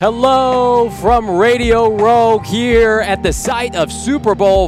Hello from Radio Row here at the site of Super Bowl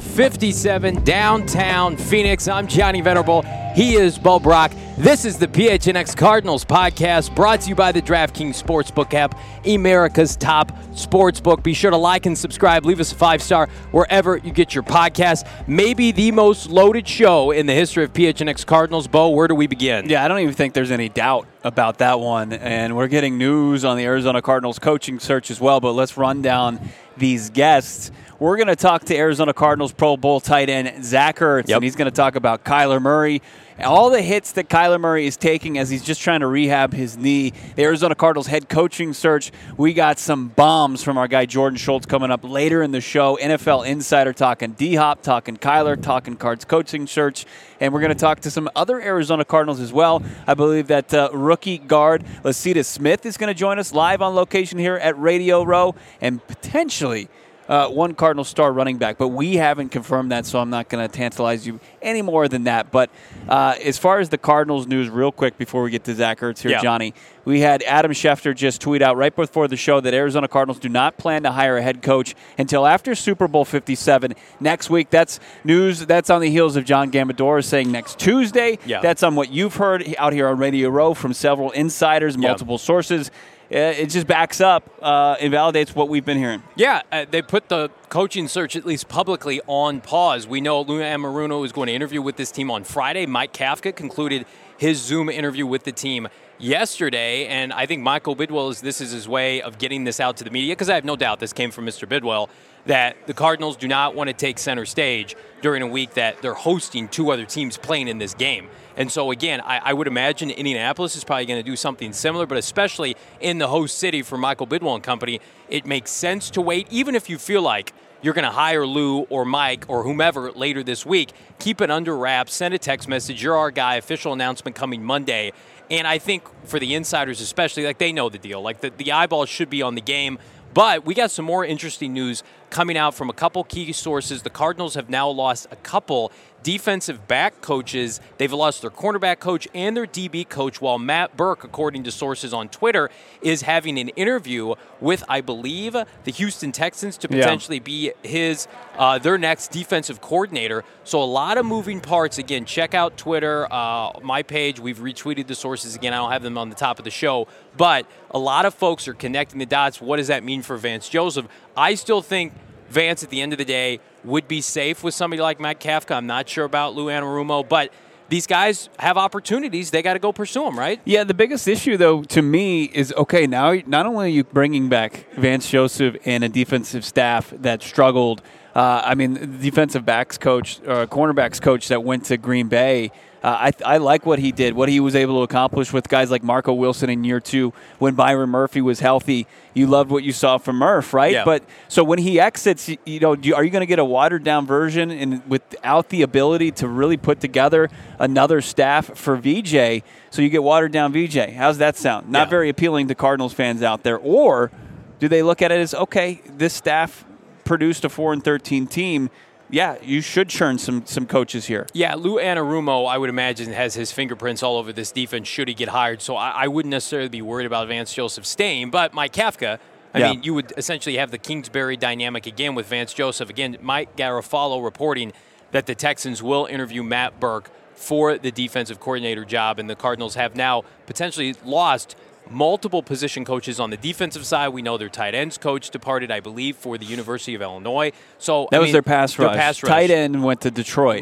57 downtown Phoenix. I'm Johnny Venerable. He is Bo Brock. This is the PHNX Cardinals podcast brought to you by the DraftKings Sportsbook app, America's top sportsbook. Be sure to like and subscribe. Leave us a 5-star wherever you get your podcast. Maybe the most loaded show in the history of PHNX Cardinals. Bo, where do we begin? Yeah, I don't even think there's any doubt about that one. And we're getting news on the Arizona Cardinals coaching search as well. But let's run down these guests. We're going to talk to Arizona Cardinals Pro Bowl tight end Zach Ertz, and he's going to talk about Kyler Murray, all the hits that Kyler Murray is taking as he's just trying to rehab his knee. The Arizona Cardinals head coaching search. We got some bombs from our guy Jordan Schultz coming up later in the show. NFL Insider talking D-Hop, talking Kyler, talking Cards coaching search. And we're going to talk to some other Arizona Cardinals as well. I believe that rookie guard Lecitus Smith is going to join us live on location here at Radio Row, and potentially one Cardinal star running back, but we haven't confirmed that, so I'm not going to tantalize you any more than that. But as far as the Cardinals news, real quick before we get to Zach Ertz here, Johnny, we had Adam Schefter just tweet out right before the show that Arizona Cardinals do not plan to hire a head coach until after Super Bowl 57 next week. That's news. That's on the heels of John Gambadoro saying next Tuesday. That's on what you've heard out here on Radio Row from several insiders, multiple sources. It just backs up and validates what we've been hearing. Yeah, they put the coaching search, at least publicly, on pause. We know Lou Anarumo is going to interview with this team on Friday. Mike Kafka concluded his Zoom interview with the team yesterday, and I think Michael Bidwell this is his way of getting this out to the media, because I have no doubt this came from Mr. Bidwell, that the Cardinals do not want to take center stage during a week that they're hosting two other teams playing in this game. And so, again, I would imagine Indianapolis is probably going to do something similar, but especially in the host city for Michael Bidwell and company, it makes sense to wait. Even if you feel like you're going to hire Lou or Mike or whomever later this week, keep it under wraps, send a text message, you're our guy, official announcement coming Monday. And I think for the insiders especially, like, they know the deal. Like, the eyeballs should be on the game. But we got some more interesting news coming out from a couple key sources. The Cardinals have now lost a couple defensive back coaches. They've lost their cornerback coach and their DB coach, while Matt Burke, according to sources on Twitter, is having an interview with, I believe, the Houston Texans to potentially be their next defensive coordinator. So a lot of moving parts. Again, check out Twitter, my page. We've retweeted the sources again. I don't have them on the top of the show. But a lot of folks are connecting the dots. What does that mean for Vance Joseph? I still think Vance, at the end of the day, would be safe with somebody like Matt Kafka. I'm not sure about Lou Anarumo, but these guys have opportunities. They got to go pursue them, right? Yeah, the biggest issue, though, to me is, okay, now not only are you bringing back Vance Joseph and a defensive staff that struggled, the defensive backs coach, cornerbacks coach that went to Green Bay, I like what he did, what he was able to accomplish with guys like Marco Wilson in year 2 when Byron Murphy was healthy. You loved what you saw from Murph, right? Yeah. But so when he exits, are you going to get a watered-down version and without the ability to really put together another staff for VJ? So you get watered-down VJ. How's that sound? Not very appealing to Cardinals fans out there. Or do they look at it as, okay, this staff produced a 4-13 team. Yeah, you should churn some coaches here. Yeah, Lou Anarumo, I would imagine, has his fingerprints all over this defense should he get hired. So I wouldn't necessarily be worried about Vance Joseph staying. But Mike Kafka, I mean, you would essentially have the Kingsbury dynamic again with Vance Joseph. Again, Mike Garafolo reporting that the Texans will interview Matt Burke for the defensive coordinator job, and the Cardinals have now potentially lost multiple position coaches on the defensive side. We know their tight ends coach departed, I believe, for the University of Illinois. So that was their pass rush. Tight end went to Detroit.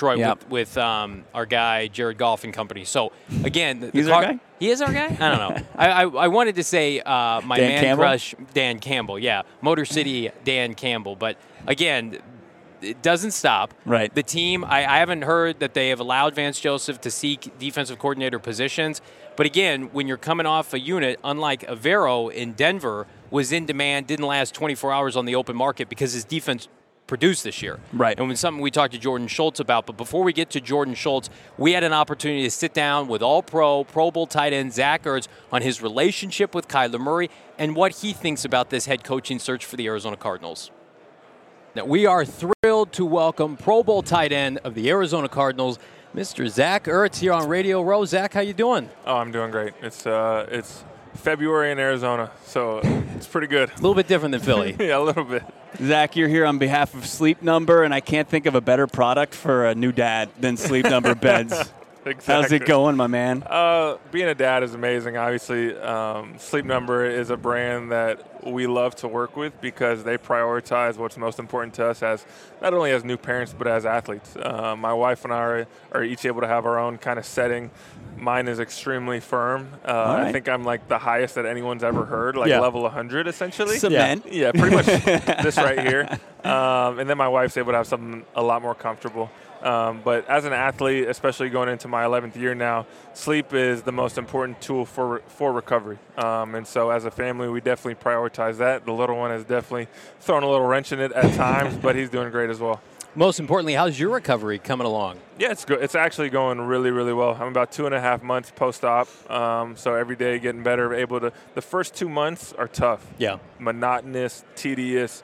With our guy Jared Goff and company. So again, he's our guy. He is our guy. I don't know. I wanted to say my crush Dan Campbell. Yeah, Motor City Dan Campbell. But again, it doesn't stop. Right. The team, I haven't heard that they have allowed Vance Joseph to seek defensive coordinator positions. But again, when you're coming off a unit, unlike Avero in Denver, was in demand, didn't last 24 hours on the open market because his defense produced this year. Right. And when something we talked to Jordan Schultz about. But before we get to Jordan Schultz, we had an opportunity to sit down with Pro Bowl tight end Zach Ertz on his relationship with Kyler Murray and what he thinks about this head coaching search for the Arizona Cardinals. Now, we are thrilled to welcome Pro Bowl tight end of the Arizona Cardinals, Mr. Zach Ertz, here on Radio Row. Zach, how you doing? Oh, I'm doing great. It's February in Arizona, so It's pretty good. A little bit different than Philly. Yeah, a little bit. Zach, you're here on behalf of Sleep Number, and I can't think of a better product for a new dad than Sleep Number beds. Exactly. How's it going, my man? Being a dad is amazing. Obviously, Sleep Number is a brand that we love to work with because they prioritize what's most important to us as not only as new parents but as athletes. My wife and I are each able to have our own kind of setting. Mine is extremely firm. Right. I think I'm like the highest that anyone's ever heard, like level 100 essentially. Cement. Yeah, pretty much this right here. And then my wife's able to have something a lot more comfortable. But as an athlete, especially going into my 11th year now, sleep is the most important tool for recovery. And so as a family, we definitely prioritize that. The little one has definitely thrown a little wrench in it at times, but he's doing great as well. Most importantly, how's your recovery coming along? Yeah, it's good. It's actually going really, really well. I'm about 2.5 months post-op, so every day getting better. The first 2 months are tough. Yeah. Monotonous, tedious.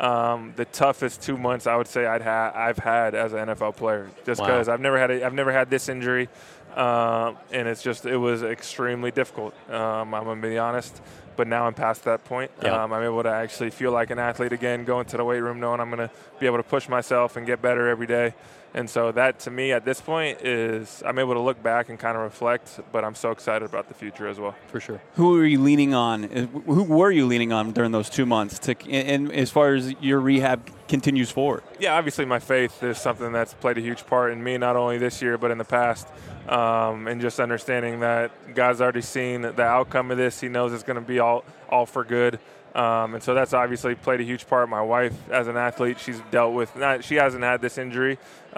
The toughest 2 months I would say I've had as an NFL player, just because I've never had this injury, and it was extremely difficult. I'm gonna be honest, but now I'm past that point. I'm able to actually feel like an athlete again, go into the weight room knowing I'm gonna be able to push myself and get better every day. And so that, to me, at this point, is I'm able to look back and kind of reflect, but I'm so excited about the future as well. For sure. Who are you leaning on? Who were you leaning on during those 2 months and as far as your rehab continues forward? Yeah, obviously my faith is something that's played a huge part in me, not only this year but in the past. And just understanding that God's already seen the outcome of this. He knows it's going to be all for good. And so that's obviously played a huge part. My wife, as an athlete, she's dealt with she hasn't had this injury,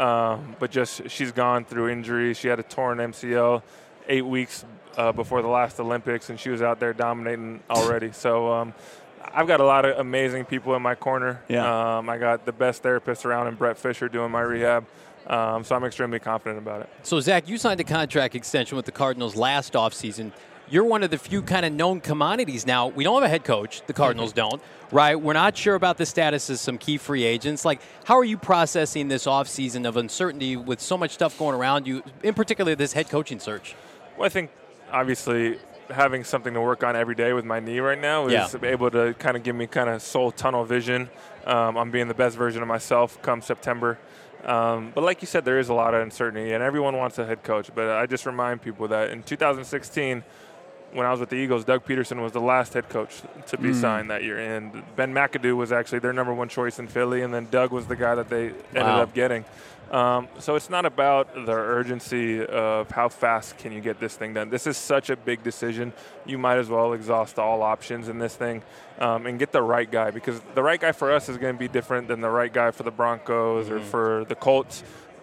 but just she's gone through injuries. She had a torn MCL 8 weeks before the last Olympics, and she was out there dominating already. So I've got a lot of amazing people in my corner. Yeah. I got the best therapist around in Brett Fisher doing my rehab. So I'm extremely confident about it. So, Zach, you signed a contract extension with the Cardinals last offseason. You're one of the few kind of known commodities now. We don't have a head coach. The Cardinals don't, right? We're not sure about the status of some key free agents. Like, how are you processing this offseason of uncertainty with so much stuff going around you, in particular this head coaching search? Well, I think, obviously, having something to work on every day with my knee right now is able to kind of give me kind of soul tunnel vision. I'm being the best version of myself come September. But like you said, there is a lot of uncertainty, and everyone wants a head coach. But I just remind people that in 2016, when I was with the Eagles, Doug Peterson was the last head coach to be signed that year. And Ben McAdoo was actually their number one choice in Philly, and then Doug was the guy that they ended up getting. So it's not about the urgency of how fast can you get this thing done. This is such a big decision. You might as well exhaust all options in this thing and get the right guy, because the right guy for us is going to be different than the right guy for the Broncos or for the Colts.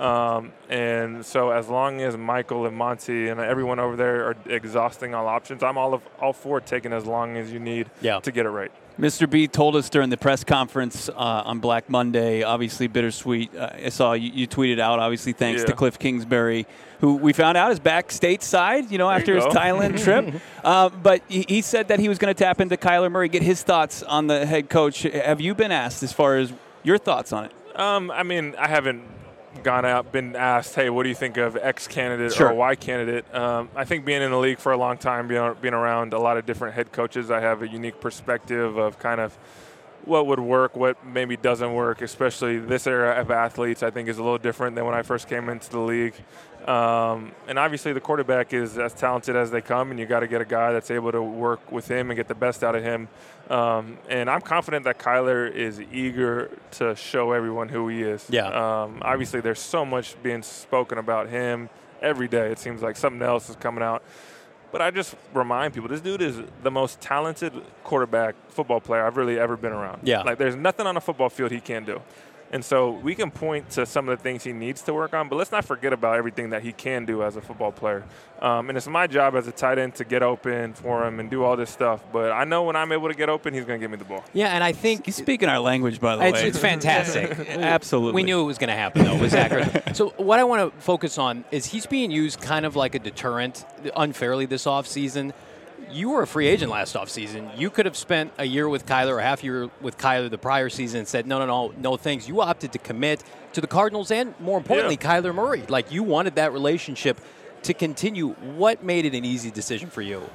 And so as long as Michael and Monty and everyone over there are exhausting all options, I'm all for taking as long as you need to get it right. Mr. B told us during the press conference on Black Monday, obviously bittersweet. I saw you tweeted out, obviously thanks to Cliff Kingsbury, who we found out is back stateside, after his Thailand trip. But he said that he was going to tap into Kyler Murray, get his thoughts on the head coach. Have you been asked as far as your thoughts on it? I mean, I haven't gone out, been asked, hey, what do you think of X candidate or Y candidate? I think being in the league for a long time, being around a lot of different head coaches, I have a unique perspective of kind of what would work, what maybe doesn't work, especially this era of athletes, I think is a little different than when I first came into the league. And obviously the quarterback is as talented as they come, and you got to get a guy that's able to work with him and get the best out of him. And I'm confident that Kyler is eager to show everyone who he is. Obviously there's so much being spoken about him every day. It seems like something else is coming out. But I just remind people, this dude is the most talented quarterback football player I've really ever been around. Like, there's nothing on a football field he can't do. And so we can point to some of the things he needs to work on, but let's not forget about everything that he can do as a football player. And it's my job as a tight end to get open for him and do all this stuff. But I know when I'm able to get open, he's going to give me the ball. Yeah, and I think he's speaking our language, by the way. It's fantastic. Absolutely. We knew it was going to happen, though, with Zach. So what I want to focus on is he's being used kind of like a deterrent unfairly this offseason. You were a free agent last offseason. You could have spent a year with Kyler or half a year with Kyler the prior season and said, no thanks. You opted to commit to the Cardinals and, more importantly, Kyler Murray. Like, you wanted that relationship to continue. What made it an easy decision for you?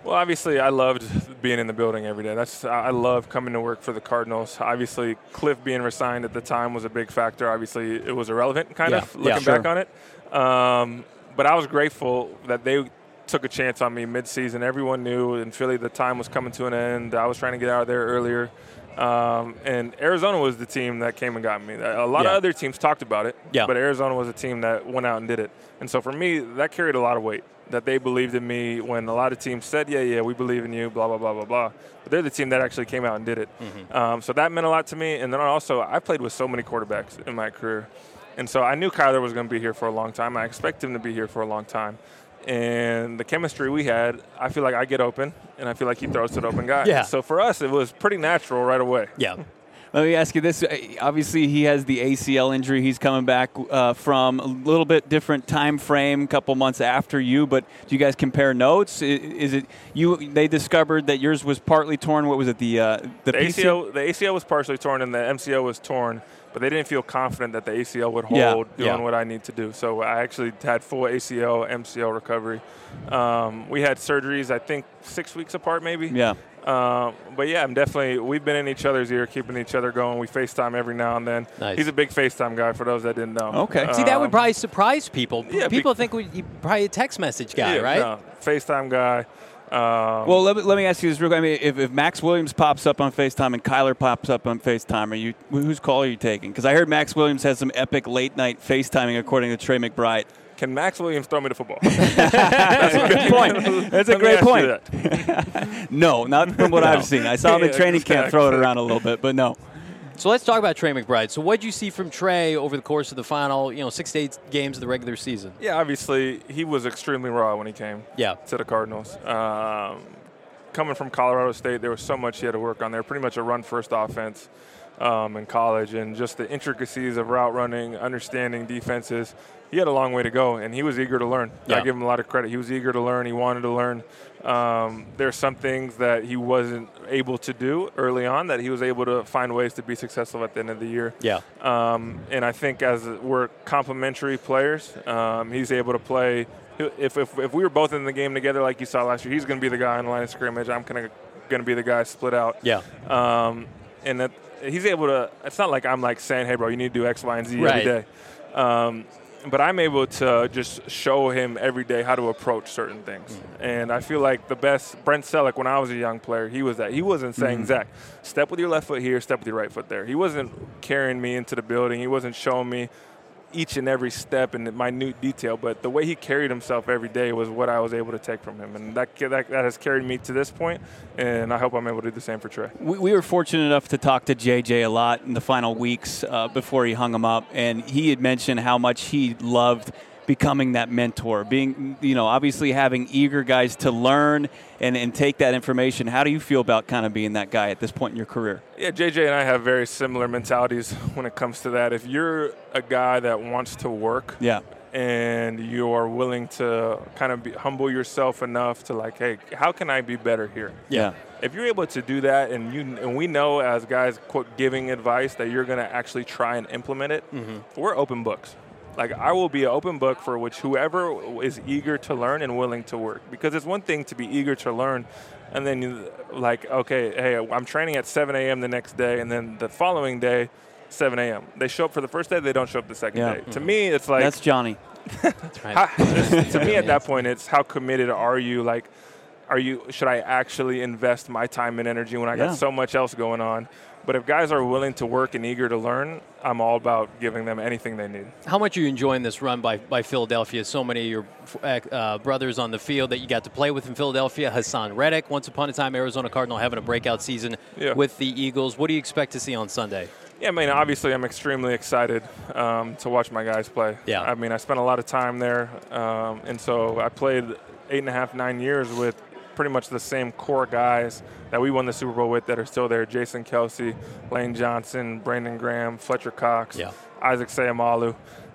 Well, obviously, I loved being in the building every day. I love coming to work for the Cardinals. Obviously, Cliff being resigned at the time was a big factor. Obviously, it was irrelevant, kind of, looking back on it. But I was grateful that they took a chance on me mid-season. Everyone knew in Philly the time was coming to an end. I was trying to get out of there earlier. And Arizona was the team that came and got me. A lot of other teams talked about it, but Arizona was a team that went out and did it. And so for me, that carried a lot of weight, that they believed in me when a lot of teams said, yeah, we believe in you, blah, blah, blah, blah, blah. But they're the team that actually came out and did it. So that meant a lot to me. And then also, I played with so many quarterbacks in my career. And so I knew Kyler was going to be here for a long time. I expect him to be here for a long time. And the chemistry we had, I feel like I get open, and I feel like he throws to the open guy. Yeah. So for us, it was pretty natural right away. Yeah. Let me ask you this. Obviously, he has the ACL injury. He's coming back from a little bit different time frame, a couple months after you. But do you guys compare notes? Is it you? They discovered that yours was partly torn. What was it? The ACL? The ACL was partially torn, and the MCL was torn. But they didn't feel confident that the ACL would hold doing what I need to do. So I actually had full ACL, MCL recovery. We had surgeries, I think, 6 weeks apart maybe. Yeah. But, yeah, we've been in each other's ear, keeping each other going. We FaceTime every now and then. Nice. He's a big FaceTime guy for those that didn't know. Okay. See, that would probably surprise people. Yeah, people think you're probably a text message guy, right? No, FaceTime guy. Well, let me ask you this real quick. I mean, if Max Williams pops up on FaceTime and Kyler pops up on FaceTime, whose call are you taking? Because I heard Max Williams has some epic late-night FaceTiming, according to Trey McBride. Can Max Williams throw me the football? That's a good point. That's a great point. No, not from what I've seen. I saw him in training camp throw it around a little bit, but no. So let's talk about Trey McBride. So what did you see from Trey over the course of the final, 6 to 8 games of the regular season? Yeah, obviously he was extremely raw when he came to the Cardinals. Coming from Colorado State, there was so much he had to work on there. Pretty much a run-first offense in college, and just the intricacies of route running, understanding defenses. He had a long way to go, and he was eager to learn. Yeah. I give him a lot of credit. He was eager to learn. He wanted to learn. There's some things that he wasn't able to do early on that he was able to find ways to be successful at the end of the year. Yeah. And I think as we're complementary players, he's able to play. If we were both in the game together like you saw last year, he's going to be the guy on the line of scrimmage. I'm going to be the guy split out. Yeah. And that he's able to – it's not like I'm like saying, hey, bro, you need to do X, Y, and Z every day. But I'm able to just show him every day how to approach certain things. And I feel like the best – Brent Selleck, when I was a young player, he was that. He wasn't saying, Zach, step with your left foot here, step with your right foot there. He wasn't carrying me into the building. He wasn't showing me each and every step in minute detail. But the way he carried himself every day was what I was able to take from him. And that has carried me to this point, and I hope I'm able to do the same for Trey. We were fortunate enough to talk to JJ a lot in the final weeks before he hung him up, and he had mentioned how much he loved becoming that mentor, being, obviously having eager guys to learn and take that information. How do you feel about kind of being that guy at this point in your career? Yeah, JJ and I have very similar mentalities when it comes to that. If you're a guy that wants to work and you're willing to kind of humble yourself enough to like, hey, how can I be better here? Yeah. If you're able to do that, and we know as guys, quote, giving advice that you're going to actually try and implement it, we're open books. Like, I will be an open book for which whoever is eager to learn and willing to work. Because it's one thing to be eager to learn, and then okay, hey, I'm training at 7 a.m. the next day, and then the following day, 7 a.m. They show up for the first day, they don't show up the second day. To me, it's like... That's Johnny. That's right. To me, at that point, it's how committed are you? Like, should I actually invest my time and energy when I got so much else going on? But if guys are willing to work and eager to learn, I'm all about giving them anything they need. How much are you enjoying this run by Philadelphia? So many of your brothers on the field that you got to play with in Philadelphia. Hassan Reddick, once upon a time Arizona Cardinal, having a breakout season with the Eagles. What do you expect to see on Sunday? Yeah, I mean, obviously I'm extremely excited to watch my guys play. Yeah. I mean, I spent a lot of time there, and so I played 8.5, 9 years with pretty much the same core guys that we won the Super Bowl with that are still there. Jason Kelce, Lane Johnson, Brandon Graham, Fletcher Cox, Isaac Seumalo.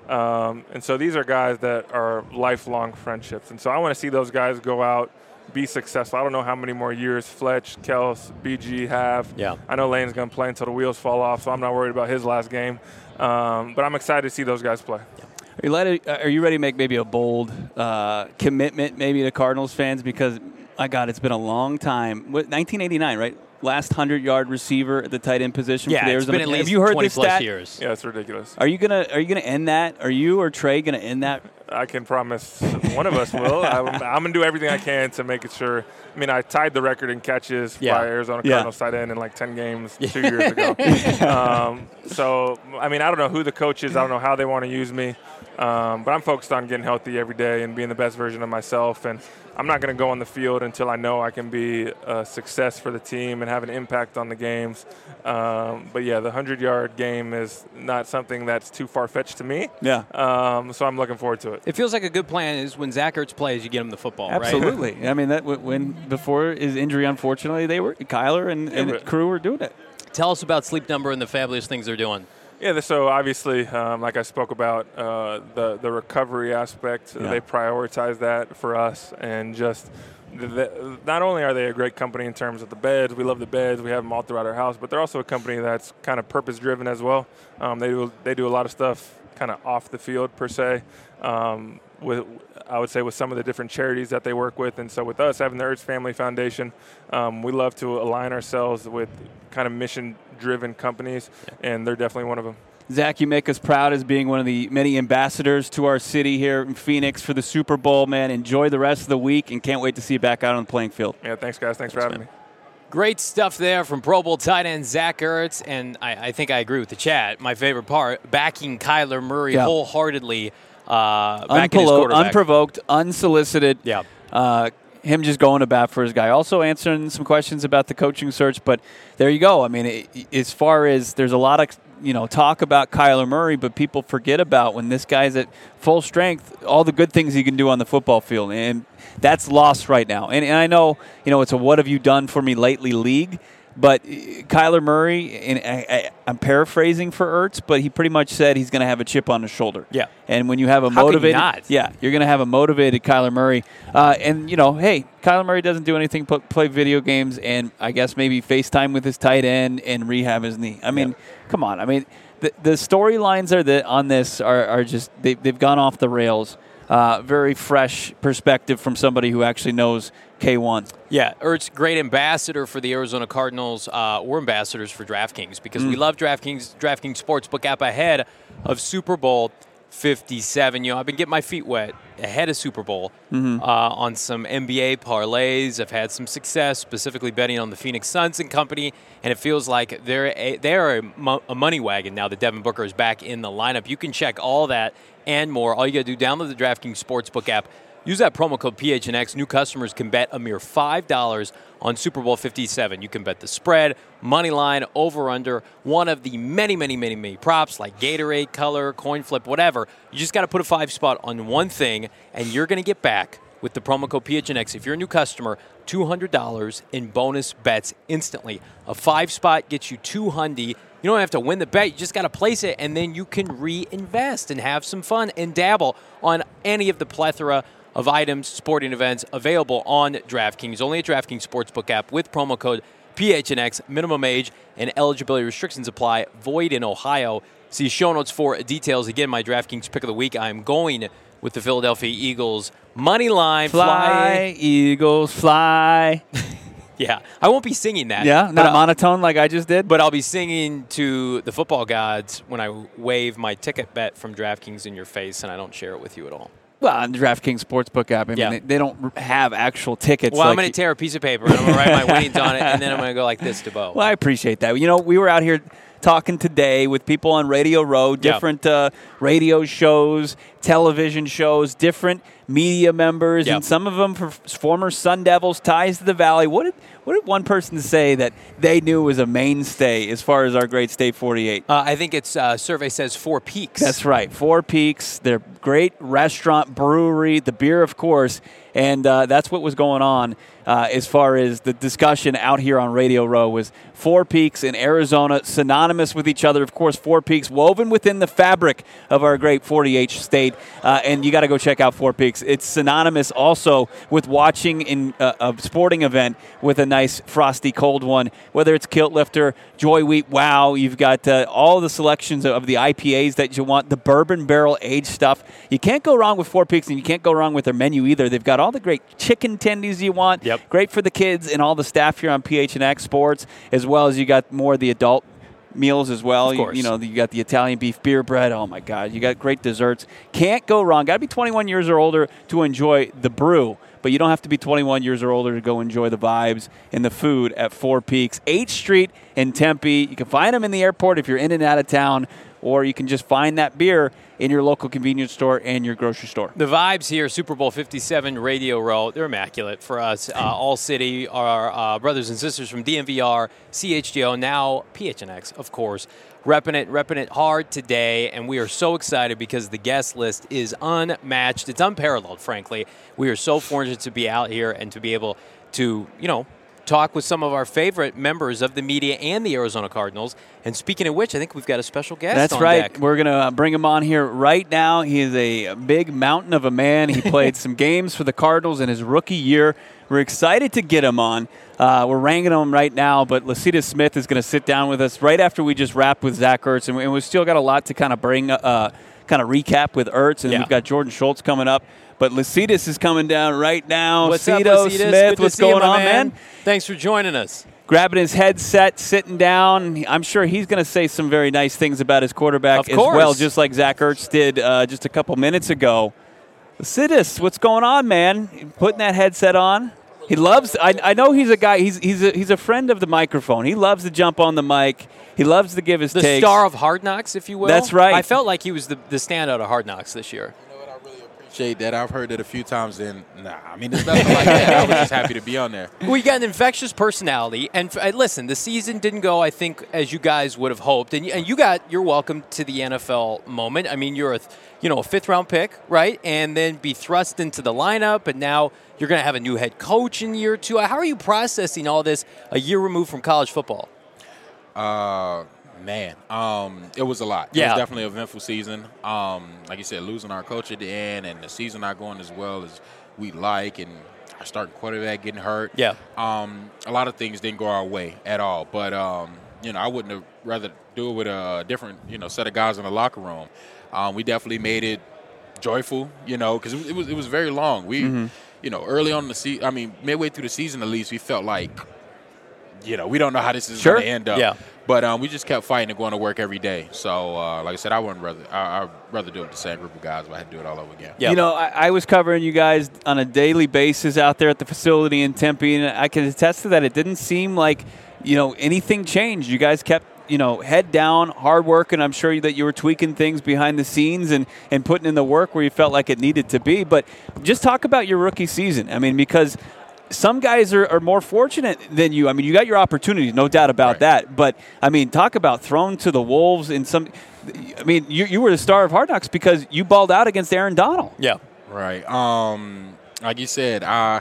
And so these are guys that are lifelong friendships. And so I want to see those guys go out, be successful. I don't know how many more years Fletch, Kels, BG have. Yeah. I know Lane's going to play until the wheels fall off, so I'm not worried about his last game. But I'm excited to see those guys play. Are you ready to make maybe a bold commitment maybe to Cardinals fans? Because My God, it's been a long time. 1989, right? Last 100-yard receiver at the tight end position for the Arizona. It's been at least Have you heard 20 this plus stat? Yeah, it's ridiculous. Are you gonna end that? Are you or Trey gonna end that? I can promise one of us will. I'm going to do everything I can to make it sure. I mean, I tied the record in catches by Arizona Cardinals tight end in like 10 games 2 years ago. So, I mean, I don't know who the coach is. I don't know how they want to use me. But I'm focused on getting healthy every day and being the best version of myself. And I'm not going to go on the field until I know I can be a success for the team and have an impact on the games. But, yeah, the 100-yard game is not something that's too far-fetched to me. Yeah. So I'm looking forward to it. It feels like a good plan is when Zach Ertz plays, you get him the football, Absolutely. right? I mean, that before his injury, unfortunately, Kyler and crew were doing it. Tell us about Sleep Number and the fabulous things they're doing. Yeah, so obviously, like I spoke about, the recovery aspect, they prioritize that for us. And just not only are they a great company in terms of the beds, we love the beds, we have them all throughout our house, but they're also a company that's kind of purpose-driven as well. They do a lot of stuff kind of off the field, per se, I would say with some of the different charities that they work with. And so with us having the Ertz Family Foundation, we love to align ourselves with kind of mission-driven companies, and they're definitely one of them. Zach, you make us proud as being one of the many ambassadors to our city here in Phoenix for the Super Bowl, man. Enjoy the rest of the week and can't wait to see you back out on the playing field. Yeah, thanks, guys. Thanks for having me. Great stuff there from Pro Bowl tight end Zach Ertz, and I think I agree with the chat. My favorite part, backing Kyler Murray wholeheartedly. Unprovoked, unsolicited. Yeah. Him just going to bat for his guy. Also answering some questions about the coaching search, but there you go. I mean, as far as there's a lot of talk about Kyler Murray, but people forget about when this guy's at full strength, all the good things he can do on the football field, and that's lost right now. And I know, it's a what have you done for me lately league, but Kyler Murray, and I'm paraphrasing for Ertz, but he pretty much said he's going to have a chip on his shoulder. Yeah. And when you have a you're going to have a motivated Kyler Murray. And hey, Kyler Murray doesn't do anything but play video games and I guess maybe FaceTime with his tight end and rehab his knee. I mean, come on. I mean, the storylines on this are just they've gone off the rails. Very fresh perspective from somebody who actually knows K1. Yeah, Ertz, great ambassador for the Arizona Cardinals. We're ambassadors for DraftKings because we love DraftKings Sportsbook app ahead of Super Bowl 57. I've been getting my feet wet ahead of Super Bowl on some NBA parlays. I've had some success, specifically betting on the Phoenix Suns and company, and it feels like they're a money wagon now that Devin Booker is back in the lineup. You can check all that and more. All you got to do, download the DraftKings Sportsbook app. Use that promo code PHNX. New customers can bet a mere $5 on Super Bowl 57. You can bet the spread, money line, over, under, one of the many, many, many, many props like Gatorade, color, coin flip, whatever. You just got to put a 5 spot on one thing, and you're going to get back with the promo code PHNX. If you're a new customer, $200 in bonus bets instantly. A 5 spot gets you $200. You don't have to win the bet. You just got to place it, and then you can reinvest and have some fun and dabble on any of the plethora of items, sporting events available on DraftKings. Only a DraftKings Sportsbook app with promo code PHNX. Minimum age and eligibility restrictions apply. Void in Ohio. See show notes for details. Again, my DraftKings pick of the week. I'm going with the Philadelphia Eagles. Money line. Fly, Eagles, fly. Yeah, I won't be singing that. Yeah, not monotone like I just did. But I'll be singing to the football gods when I wave my ticket bet from DraftKings in your face, and I don't share it with you at all. Well, on the DraftKings Sportsbook app, I mean, they don't have actual tickets. Well, I'm going to tear a piece of paper, and I'm going to write my winnings on it, and then I'm going to go like this to Bo. Well, I appreciate that. We were out here talking today with people on Radio Row, different radio shows, television shows, different media members, and some of them former Sun Devils, ties to the Valley. What did one person say that they knew was a mainstay as far as our great State 48? I think it's survey says Four Peaks. That's right, Four Peaks. They're great restaurant, brewery, the beer, of course, and that's what was going on as far as the discussion out here on Radio Row was Four Peaks in Arizona, synonymous with each other. Of course, Four Peaks woven within the fabric of our great 48 state, and you got to go check out Four Peaks. Peaks. It's synonymous also with watching in a sporting event with a nice frosty cold one, whether it's Kilt Lifter, Joy Wheat, wow. You've got all the selections of the IPAs that you want, the bourbon barrel aged stuff. You can't go wrong with Four Peaks, and you can't go wrong with their menu either. They've got all the great chicken tendies you want, great for the kids and all the staff here on PHNX Sports, as well as you got more of the adult meals as well. You got the Italian beef beer bread. Oh, my God. You got great desserts. Can't go wrong. Got to be 21 years or older to enjoy the brew, but you don't have to be 21 years or older to go enjoy the vibes and the food at Four Peaks. 8th Street in Tempe. You can find them in the airport if you're in and out of town, or you can just find that beer in your local convenience store and your grocery store. The vibes here, Super Bowl 57 Radio Row, they're immaculate for us. All City, our brothers and sisters from DMVR, CHGO, now PHNX, of course, repping it hard today, and we are so excited because the guest list is unmatched. It's unparalleled, frankly. We are so fortunate to be out here and to be able to, talk with some of our favorite members of the media and the Arizona Cardinals. And speaking of which, I think we've got a special guest That's on right. deck. We're going to bring him on here right now. He is a big mountain of a man. He played some games for the Cardinals in his rookie year. We're excited to get him on. We're ranking him right now, but Lecitus Smith is going to sit down with us right after we just wrapped with Zach Ertz. And we've still got a lot to kind of bring, recap with Ertz. And we've got Jordan Schultz coming up. But Lecitus is coming down right now. What's up, Lecitus Smith? Smith, what's going on, man? Thanks for joining us. Grabbing his headset, sitting down. I'm sure he's going to say some very nice things about his quarterback as well, just like Zach Ertz did just a couple minutes ago. Lecitus, what's going on, man? Putting that headset on. He loves. I know he's a guy. He's a friend of the microphone. He loves to jump on the mic. He loves to give his takes. The star of Hard Knocks, if you will. That's right. I felt like he was the standout of Hard Knocks this year. That I've heard it a few times. There's nothing like that. I was just happy to be on there. We got an infectious personality, and listen, the season didn't go, I think, as you guys would have hoped, and you got your welcome to the NFL moment. I mean, you're a 5th-round pick, right, and then be thrust into the lineup, and now you're going to have a new head coach in year 2. How are you processing all this a year removed from college football? Man, it was a lot. It was definitely an eventful season. Like you said, losing our coach at the end and the season not going as well as we'd like, and our starting quarterback getting hurt. Yeah. A lot of things didn't go our way at all. But, I wouldn't have rather do it with a different, set of guys in the locker room. We definitely made it joyful, because it was very long. We, early on in the season, midway through the season at least, we felt like, we don't know how this is going to end up. Yeah. But we just kept fighting and going to work every day. So, like I said, I'd rather do it with the same group of guys, but I had to do it all over again. Yeah. I was covering you guys on a daily basis out there at the facility in Tempe, and I can attest to that. It didn't seem like, anything changed. You guys kept, head down, hard work, and I'm sure that you were tweaking things behind the scenes and putting in the work where you felt like it needed to be. But just talk about your rookie season. because some guys are more fortunate than you. You got your opportunities, no doubt about that. But, talk about thrown to the wolves in some – you were the star of Hard Knocks because you balled out against Aaron Donald. Yeah. Right. Like you said,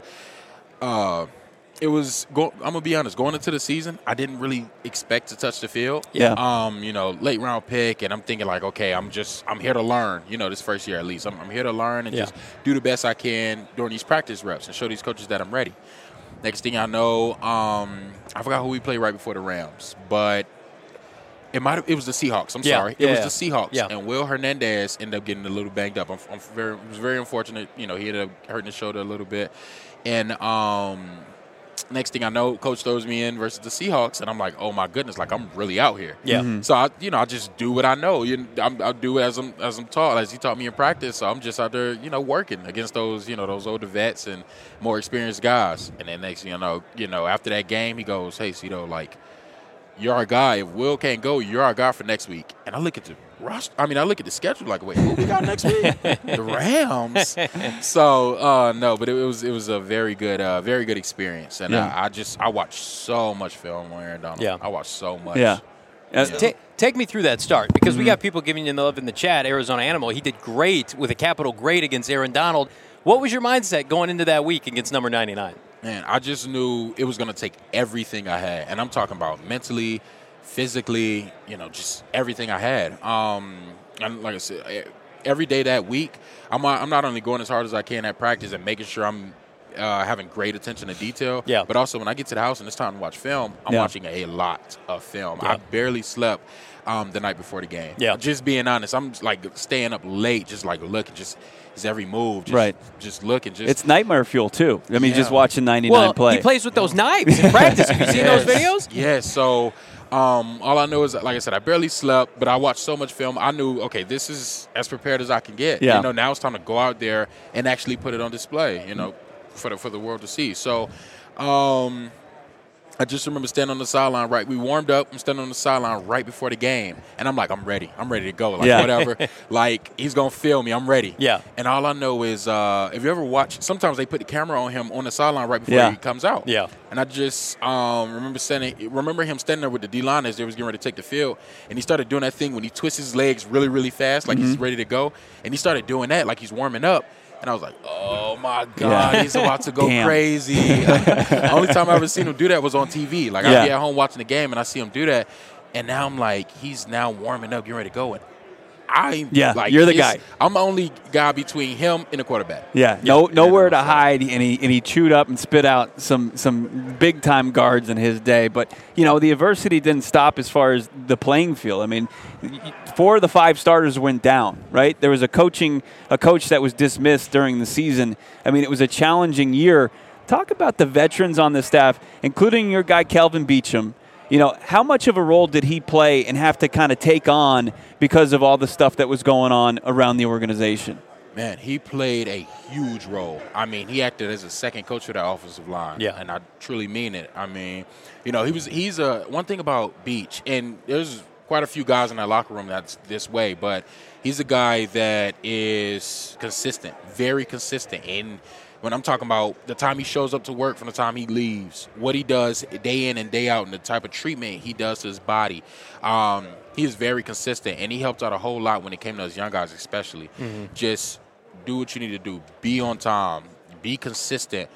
it was – I'm going to be honest. Going into the season, I didn't really expect to touch the field. Yeah. Late round pick, and I'm thinking like, okay, I'm here to learn, this first year at least. I'm here to learn and just do the best I can during these practice reps and show these coaches that I'm ready. Next thing I know, I forgot who we played right before the Rams, but it was the Seahawks. I'm sorry. It was the Seahawks. Yeah. And Will Hernandez ended up getting a little banged up. It was very unfortunate. He ended up hurting his shoulder a little bit. And next thing I know, coach throws me in versus the Seahawks, and I'm like, oh my goodness, like I'm really out here. Yeah. Mm-hmm. So I just do what I know. I'll do it as I'm taught, as he taught me in practice. So I'm just out there, working against those, those older vets and more experienced guys. And then next thing you know, after that game, he goes, hey, Cito, like, you're our guy. If Will can't go, you're our guy for next week. And I look at the roster. I look at the schedule like, wait, who we got next week? The Rams. So no, but it was a very good experience. And I watched so much film on Aaron Donald. Yeah. I watched so much. Yeah. Take me through that start, because we got people giving you love in the chat. Arizona Animal, he did great with a capital great against Aaron Donald. What was your mindset going into that week against number 99? Man, I just knew it was going to take everything I had. And I'm talking about mentally, physically, just everything I had. And like I said, every day that week, I'm not only going as hard as I can at practice and making sure I'm having great attention to detail, but also when I get to the house and it's time to watch film, I'm watching a lot of film. I barely slept the night before the game. Just being honest, I'm like staying up late, just like looking, just every move, just looking. It's nightmare fuel too. I mean, just watching 99 play. He plays with those knives in practice. Have you seen those videos? Yes. So all I know is, like I said, I barely slept, but I watched so much film. I knew, okay, this is as prepared as I can get. You know, now it's time to go out there and actually put it on display, you know, for the world to see. So I just remember standing on the sideline, we warmed up. I'm standing on the sideline right before the game. And I'm like, I'm ready. I'm ready to go. Like, whatever. Like, he's going to film me. I'm ready. Yeah. And all I know is if you ever watch, sometimes they put the camera on him on the sideline right before he comes out. Yeah. And I just remember him standing there with the D-line as they was getting ready to take the field. And he started doing that thing when he twists his legs really, really fast, like he's ready to go. And he started doing that like he's warming up. And I was like, oh, my God, he's about to go crazy. The only time I ever seen him do that was on TV. Like, I'd be at home watching the game, and I see him do that. And now I'm like, he's now warming up, getting ready to go. And you're the guy. I'm the only guy between him and the quarterback. Nowhere to hide, and he chewed up and spit out some big time guards in his day. But the adversity didn't stop as far as the playing field. I mean, 4 of the 5 starters went down. Right, there was a coach that was dismissed during the season. I mean, it was a challenging year. Talk about the veterans on the staff, including your guy Kelvin Beachum. How much of a role did he play and have to kind of take on because of all the stuff that was going on around the organization? Man, he played a huge role. I mean, he acted as a second coach for that offensive line. Yeah. And I truly mean it. I mean, he's one thing about Beach, and there's quite a few guys in that locker room that's this way, but he's a guy that is consistent, very consistent. And when I'm talking about the time he shows up to work from the time he leaves, what he does day in and day out, and the type of treatment he does to his body, he is very consistent, and he helped out a whole lot when it came to those young guys especially. Just do what you need to do. Be on time. Be consistent.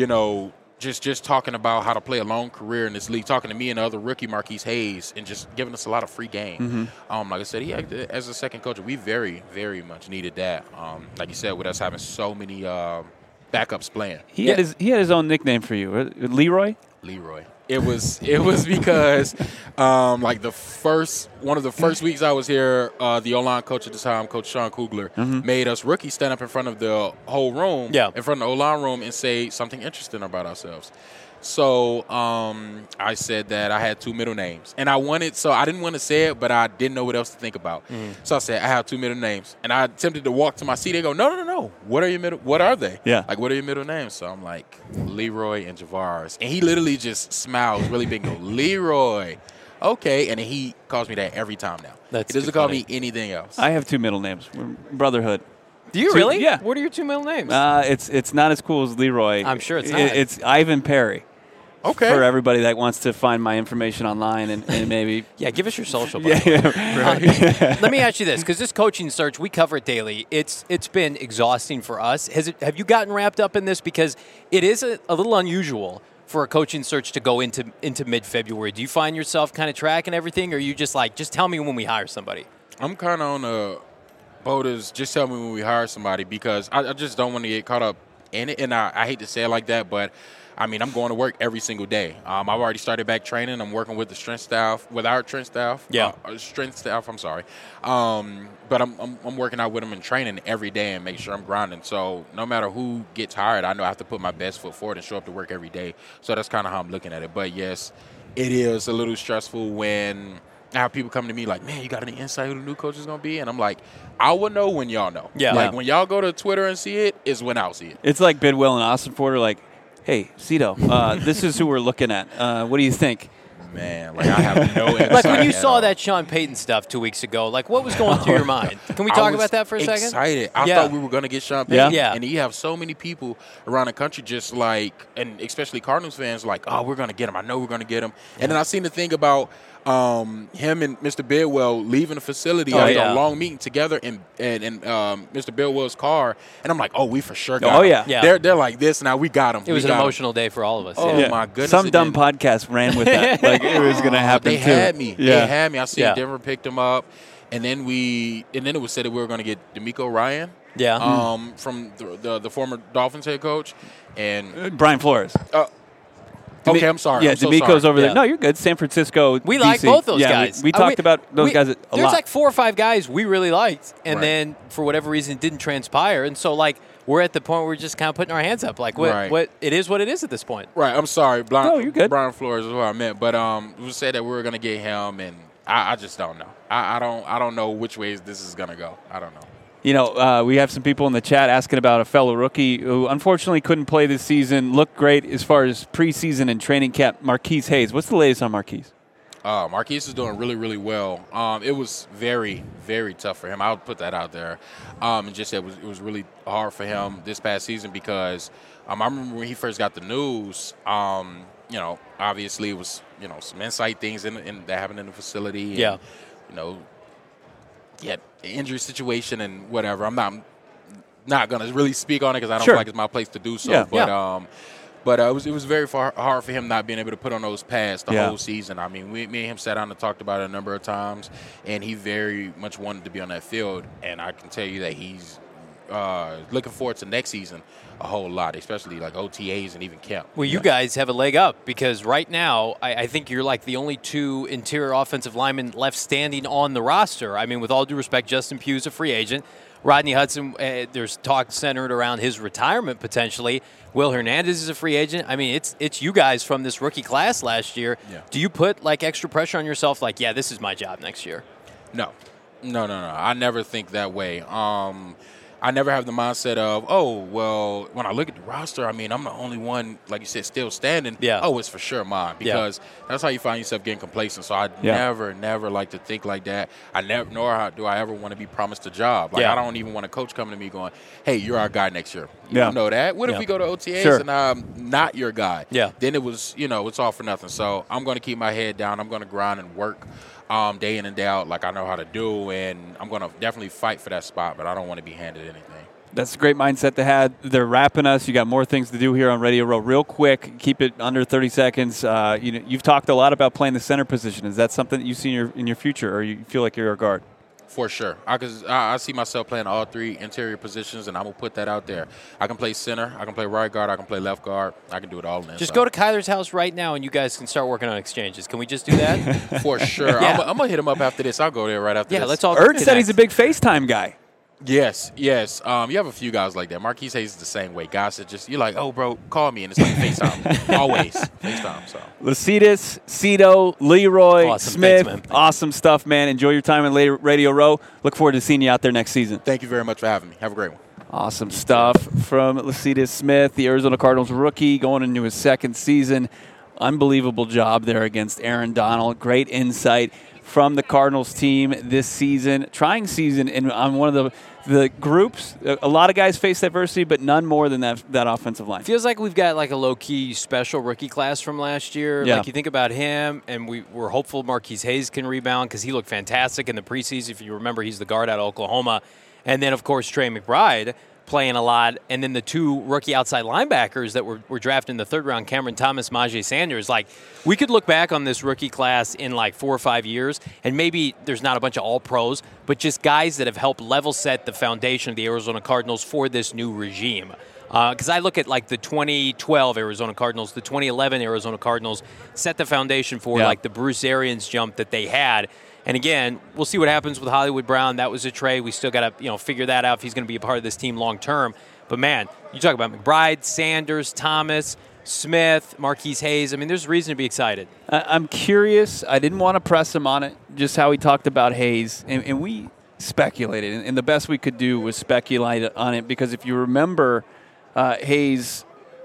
Just talking about how to play a long career in this league, talking to me and the other rookie, Marquise Hayes, and just giving us a lot of free game. Like I said, as a second coach, we very, very much needed that. Like you said, with us having so many backups playing. He had his own nickname for you, Leroy? Leroy. It was because like one of the first weeks I was here, the O-line coach at the time, Coach Sean Kugler, made us rookies stand up in front of the whole room, in front of the O-line room, and say something interesting about ourselves. So I said that I had 2 middle names, and I didn't want to say it, but I didn't know what else to think about. So I said I have 2 middle names, and I attempted to walk to my seat. They go, no. What are they? Like, what are your middle names? So I'm like, Leroy and Javaris, and he literally just smiles really big and go, Leroy. Okay, and then he calls me that every time now. He doesn't call me anything else. I have 2 middle names. We're brotherhood. Do you really? Yeah. What are your 2 middle names? It's not as cool as Leroy. I'm sure it's not. It's Ivan Perry. Okay. For everybody that wants to find my information online and maybe. Give us your social. Let me ask you this, because this coaching search, we cover it daily. It's been exhausting for us. Have you gotten wrapped up in this? Because it is a little unusual for a coaching search to go into mid-February. Do you find yourself kind of tracking everything, or are you just like, just tell me when we hire somebody? I'm kind of on the boat as just tell me when we hire somebody, because I just don't want to get caught up in it. And I hate to say it like that, but I mean, I'm going to work every single day. I've already started back training. I'm working with the strength staff, with our strength staff. I'm sorry. But I'm working out with them in training every day and make sure I'm grinding. So no matter who gets hired, I know I have to put my best foot forward and show up to work every day. So that's kind of how I'm looking at it. But yes, it is a little stressful when I have people come to me like, man, you got any insight who the new coach is going to be? And I'm like, I will know when y'all know. Like when y'all go to Twitter and see it is when I'll see it. It's like Bidwell and Austin Porter, like, hey, Cito, this is who we're looking at. What do you think? Man, like I have no insight. Like when you saw that Sean Payton stuff 2 weeks ago, like what was going through your mind? Can we talk about that for a second? Excited. I thought we were going to get Sean Payton. And you have so many people around the country just like, and especially Cardinals fans, like, oh, we're going to get him. I know we're going to get him. And then I seen the thing about him and Mr. Bidwell leaving the facility after a long meeting together in Mr. Bidwell's car, and I'm like, oh, we for sure got him. They're like this now. We got him. It was an emotional day for all of us. Oh my goodness! Some dumb podcast ran with that. Like it was going to happen. They had me. They had me. I see Denver picked him up. and then it was said that we were going to get D'Amico Ryan. Yeah. From the former Dolphins head coach, and Brian Flores. Okay, I'm sorry. Yeah, I'm so D'Amico's sorry. over there. No, you're good. San Francisco. We DC. like both those yeah, guys. We talked about those guys a lot. There's like 4 or 5 guys we really liked, and Right. then for whatever reason it didn't transpire. And so like we're at the point where we're just kind of putting our hands up. Like what it is what it is at this point. Right. I'm sorry. No, you're good. Brian Flores is what I meant, but we said that we were going to get him, and I just don't know. I don't know which ways this is going to go. I don't know. You know, we have some people in the chat asking about a fellow rookie who unfortunately couldn't play this season. Looked great as far as preseason and training camp. Marquise Hayes. What's the latest on Marquise? Marquise is doing really, really well. It was very, very tough for him. I would put that out there. And just it was really hard for him this past season because I remember when he first got the news. Obviously it was some insight things that happened in the facility. And, yeah, injury situation and whatever. I'm not going to really speak on it because I don't feel like it's my place to do so. Yeah. But it was very hard for him not being able to put on those pads the whole season. I mean, me and him sat down and talked about it a number of times, and he very much wanted to be on that field. And I can tell you that he's looking forward to next season a whole lot, especially like OTAs and even camp. Well, you guys have a leg up because right now I think you're like the only 2 interior offensive linemen left standing on the roster. I mean, with all due respect, Justin Pugh's a free agent. Rodney Hudson, there's talk centered around his retirement potentially. Will Hernandez is a free agent. I mean, it's you guys from this rookie class last year. Yeah. Do you put like extra pressure on yourself? Like, yeah, this is my job next year. No. I never think that way. I never have the mindset of, oh, well, when I look at the roster, I mean, I'm the only one, like you said, still standing. Yeah. Oh, it's for sure mine. Because that's how you find yourself getting complacent. So I never like to think like that. Nor do I ever want to be promised a job. Like, I don't even want a coach coming to me going, hey, you're our guy next year. You don't know that. What if we go to OTAs and I'm not your guy? Yeah. Then it was, it's all for nothing. So I'm going to keep my head down. I'm going to grind and work day in and day out like I know how to do, and I'm going to definitely fight for that spot, but I don't want to be handed anything. That's a great mindset to have. They're wrapping us. You got more things to do here on Radio Row. Real quick, keep it under 30 seconds. You've talked a lot about playing the center position. Is that something that you see in your future, or you feel like you're a guard? For sure. I see myself playing all 3 interior positions, and I'm going to put that out there. I can play center. I can play right guard. I can play left guard. I can do it all in. Just go to Kyler's house right now, and you guys can start working on exchanges. Can we just do that? For sure. I'm going to hit him up after this. I'll go there right after this. Yeah, let's all Erd said he's a big FaceTime guy. Yes. You have a few guys like that. Marquise Hayes is the same way. Guys that just, you're like, oh, bro, call me, and it's like FaceTime. Always FaceTime. So. Lecitus, Cito, Leroy, Awesome. Smith. Thanks, man. Awesome stuff, man. Enjoy your time in Radio Row. Look forward to seeing you out there next season. Thank you very much for having me. Have a great one. Awesome stuff from Lecitus Smith, the Arizona Cardinals rookie, going into his 2nd season. Unbelievable job there against Aaron Donald. Great insight from the Cardinals team this season. Trying season on one of the groups. A lot of guys face adversity, but none more than that offensive line. Feels like we've got like a low-key special rookie class from last year. Yeah. Like you think about him, and we're hopeful Marquise Hayes can rebound because he looked fantastic in the preseason. If you remember, he's the guard out of Oklahoma. And then, of course, Trey McBride playing a lot. And then the 2 rookie outside linebackers that were drafted in the 3rd round, Cameron Thomas, Myjai Sanders. Like, we could look back on this rookie class in like 4 or 5 years, and maybe there's not a bunch of all-pros, but just guys that have helped level set the foundation of the Arizona Cardinals for this new regime. Because I look at like the 2012 Arizona Cardinals, the 2011 Arizona Cardinals set the foundation for like the Bruce Arians jump that they had. And again, we'll see what happens with Hollywood Brown. That was a trade. We still got to figure that out if he's going to be a part of this team long term. But man, you talk about McBride, Sanders, Thomas, Smith, Marquise Hayes. I mean, there's reason to be excited. I'm curious. I didn't want to press him on it, just how he talked about Hayes. And we speculated. And the best we could do was speculate on it because if you remember, Hayes,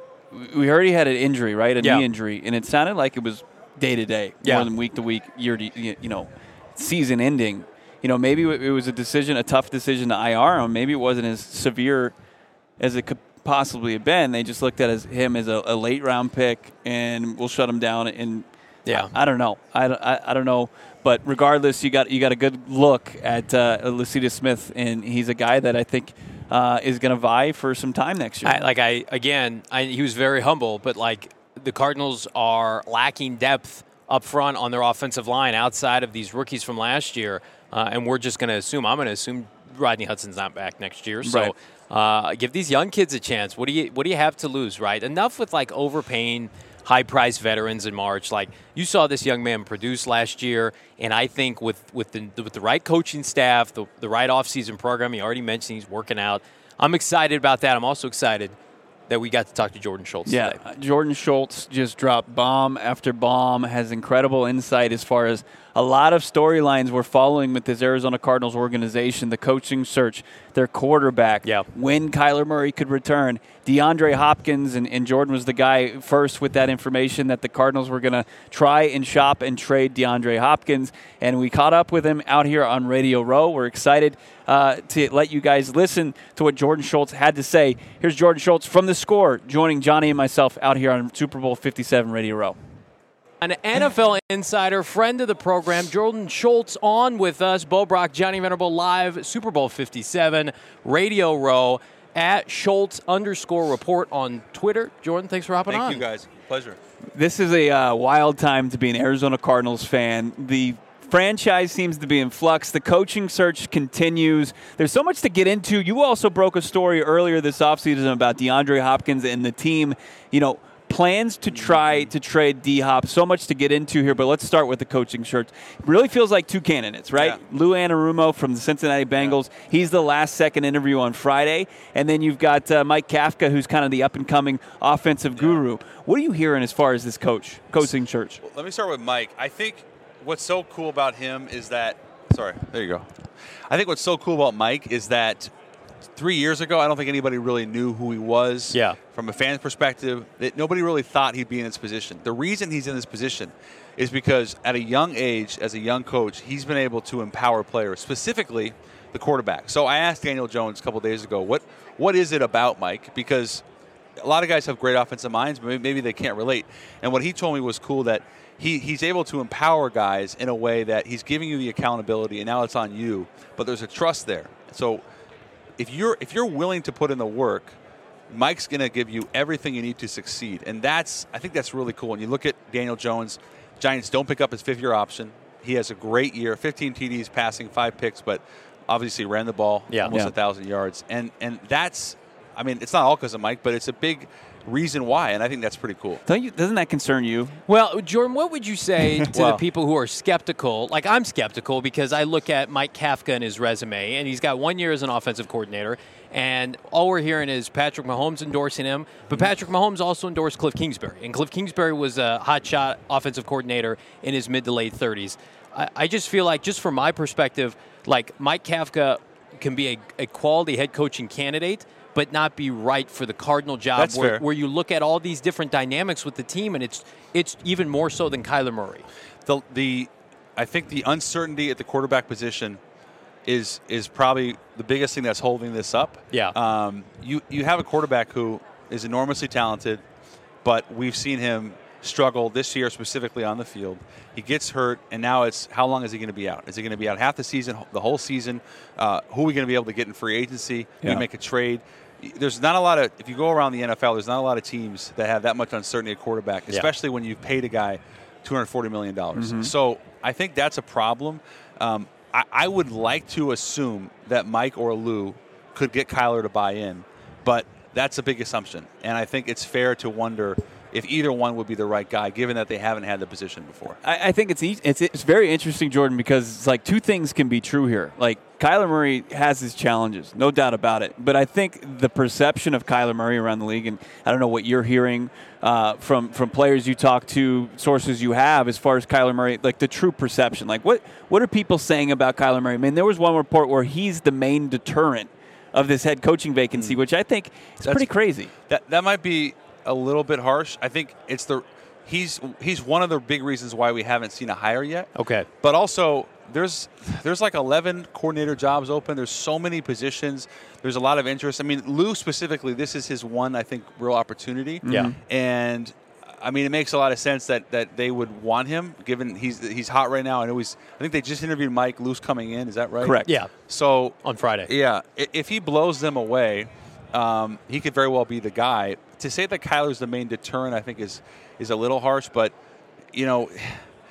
we already had an injury, right? A knee injury. And it sounded like it was day to day, more than week to week, year to season ending. Maybe it was a tough decision to IR him. Maybe it wasn't as severe as it could possibly have been. They just looked at him as a late round pick, and we'll shut him down. And I don't know. I don't know. But regardless, you got a good look at Lecitus Smith, and he's a guy that I think is going to vie for some time next year. He was very humble, but like the Cardinals are lacking depth up front on their offensive line outside of these rookies from last year. And we're just going to assume, I'm going to assume Rodney Hudson's not back next year. So give these young kids a chance. What do you have to lose, right? Enough with like overpaying high-priced veterans in March. Like, you saw this young man produce last year, and I think with the right coaching staff, the right offseason program, he already mentioned he's working out. I'm excited about that. I'm also excited that we got to talk to Jordan Schultz today. Jordan Schultz just dropped bomb after bomb, has incredible insight as far as a lot of storylines we're following with this Arizona Cardinals organization, the coaching search, their quarterback, when Kyler Murray could return. DeAndre Hopkins, and Jordan was the guy first with that information that the Cardinals were going to try and shop and trade DeAndre Hopkins, and we caught up with him out here on Radio Row. We're excited to let you guys listen to what Jordan Schultz had to say. Here's Jordan Schultz from The Score, joining Johnny and myself out here on Super Bowl 57 Radio Row. An NFL insider, friend of the program, Jordan Schultz, on with us. Bo Brock, Johnny Venerable, live, Super Bowl 57, Radio Row, at Schultz_report on Twitter. Jordan, thanks for hopping on. Thank you, guys. Pleasure. This is a wild time to be an Arizona Cardinals fan. The franchise seems to be in flux. The coaching search continues. There's so much to get into. You also broke a story earlier this offseason about DeAndre Hopkins and the team, plans to try to trade D-Hop. So much to get into here, but let's start with the coaching search. It really feels like two candidates, right? Yeah. Lou Anarumo from the Cincinnati Bengals. Yeah. He's the last second interview on Friday. And then you've got Mike Kafka, who's kind of the up-and-coming offensive guru. What are you hearing as far as this coaching search? Well, let me start with Mike. I think what's so cool about him is that there you go. I think what's so cool about Mike is that 3 years ago, I don't think anybody really knew who he was. Yeah. From a fan's perspective, that nobody really thought he'd be in this position. The reason he's in this position is because at a young age, as a young coach, he's been able to empower players, specifically the quarterback. So I asked Daniel Jones a couple of days ago, what is it about Mike? Because a lot of guys have great offensive minds, but maybe they can't relate. And what he told me was cool, that he's able to empower guys in a way that he's giving you the accountability, and now it's on you, but there's a trust there. So if you're willing to put in the work, Mike's going to give you everything you need to succeed. And I think that's really cool. When you look at Daniel Jones, Giants don't pick up his fifth-year option. He has a great year, 15 TDs, passing 5 picks, but obviously ran the ball almost 1,000 yards. And that's, it's not all because of Mike, but it's a big reason why, and I think that's pretty cool. Doesn't that concern you? Well, Jordan, what would you say to the people who are skeptical? Like, I'm skeptical because I look at Mike Kafka and his resume, and he's got 1 year as an offensive coordinator, and all we're hearing is Patrick Mahomes endorsing him, but Patrick Mahomes also endorsed Cliff Kingsbury, and Cliff Kingsbury was a hotshot offensive coordinator in his mid to late 30s. I just feel like, just from my perspective, like Mike Kafka can be a quality head coaching candidate, but not be right for the Cardinal job, where you look at all these different dynamics with the team, and it's even more so than Kyler Murray. I think the uncertainty at the quarterback position is probably the biggest thing that's holding this up. Yeah. You have a quarterback who is enormously talented, but we've seen him struggle this year specifically on the field. He gets hurt, and now it's how long is he going to be out? Is he going to be out half the season, the whole season? Who are we going to be able to get in free agency? We make a trade. There's not a lot of, if you go around the NFL, there's not a lot of teams that have that much uncertainty at quarterback, especially when you've paid a guy $240 million. Mm-hmm. So I think that's a problem. I would like to assume that Mike or Lou could get Kyler to buy in, but that's a big assumption. And I think it's fair to wonder if either one would be the right guy, given that they haven't had the position before. I think it's very interesting, Jordan, because it's like two things can be true here. Like, Kyler Murray has his challenges, no doubt about it. But I think the perception of Kyler Murray around the league, and I don't know what you're hearing from players you talk to, sources you have, as far as Kyler Murray, like the true perception. Like, what are people saying about Kyler Murray? I mean, there was one report where he's the main deterrent of this head coaching vacancy, which I think is pretty crazy. That might be a little bit harsh. I think it's he's one of the big reasons why we haven't seen a hire yet. Okay. But also there's like 11 coordinator jobs open. There's so many positions. There's a lot of interest. I mean, Lou specifically, this is his one, I think, real opportunity. Yeah. And I mean, it makes a lot of sense that they would want him, given he's hot right now. I think they just interviewed Mike. Lou's coming in. Is that right? Correct. Yeah. So on Friday. Yeah. If he blows them away, he could very well be the guy. To say that Kyler's the main deterrent, I think, is a little harsh. But,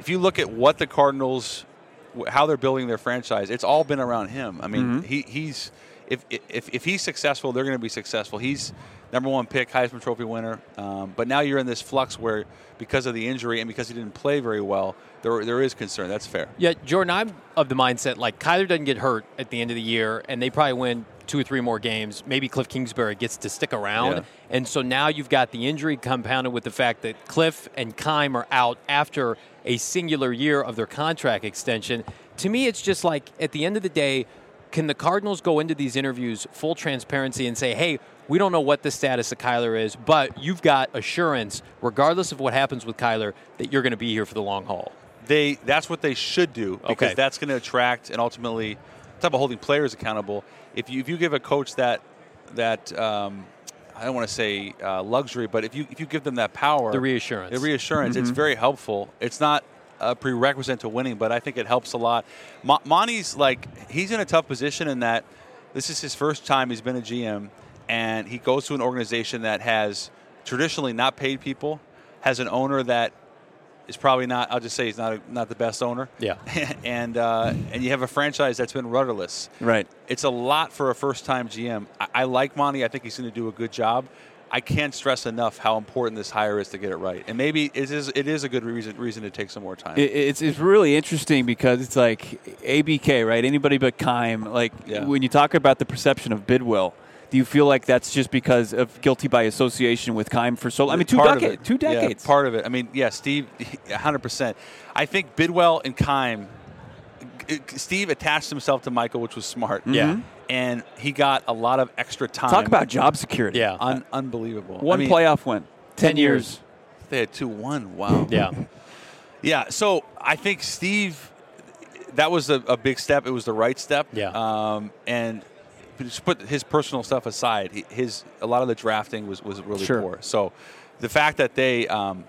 if you look at what the Cardinals, how they're building their franchise, it's all been around him. I mean, he's if he's successful, they're going to be successful. He's #1 pick, Heisman Trophy winner. But now you're in this flux where, because of the injury and because he didn't play very well, there is concern. That's fair. Yeah, Jordan, I'm of the mindset, like, Kyler doesn't get hurt at the end of the year, and they probably win 2 or 3 more games. Maybe Cliff Kingsbury gets to stick around. Yeah. And so now you've got the injury compounded with the fact that Cliff and Keim are out after a singular year of their contract extension. To me, it's just like, at the end of the day, can the Cardinals go into these interviews full transparency and say, hey, we don't know what the status of Kyler is, but you've got assurance, regardless of what happens with Kyler, that you're going to be here for the long haul? That's what they should do, because that's going to attract and ultimately type of holding players accountable. If you give a coach that I don't want to say luxury, but if you give them that power, The reassurance, it's very helpful. It's not a prerequisite to winning, but I think it helps a lot. Monty's he's in a tough position in that this is his first time he's been a GM, and he goes to an organization that has traditionally not paid people, has an owner that is probably not. I'll just say he's not the best owner. Yeah, and you have a franchise that's been rudderless. Right. It's a lot for a first-time GM. I like Monty. I think he's going to do a good job. I can't stress enough how important this hire is to get it right. And maybe it is a good reason to take some more time. It's really interesting because it's like ABK, right? Anybody but Keim. When you talk about the perception of Bidwell, do you feel like that's just because of guilty by association with Keim for so long? I mean, 2 decades. Yeah, part of it. I mean, yeah, Steve, 100%. I think Bidwell and Keim, Steve attached himself to Michael, which was smart. Yeah. And he got a lot of extra time. Talk about job security. Yeah. Unbelievable. One playoff win. 10 years. They had 2-1. Wow. Yeah. Yeah, so I think Steve, that was a big step. It was the right step. Yeah. And just put his personal stuff aside, a lot of the drafting was really poor. So the fact that they,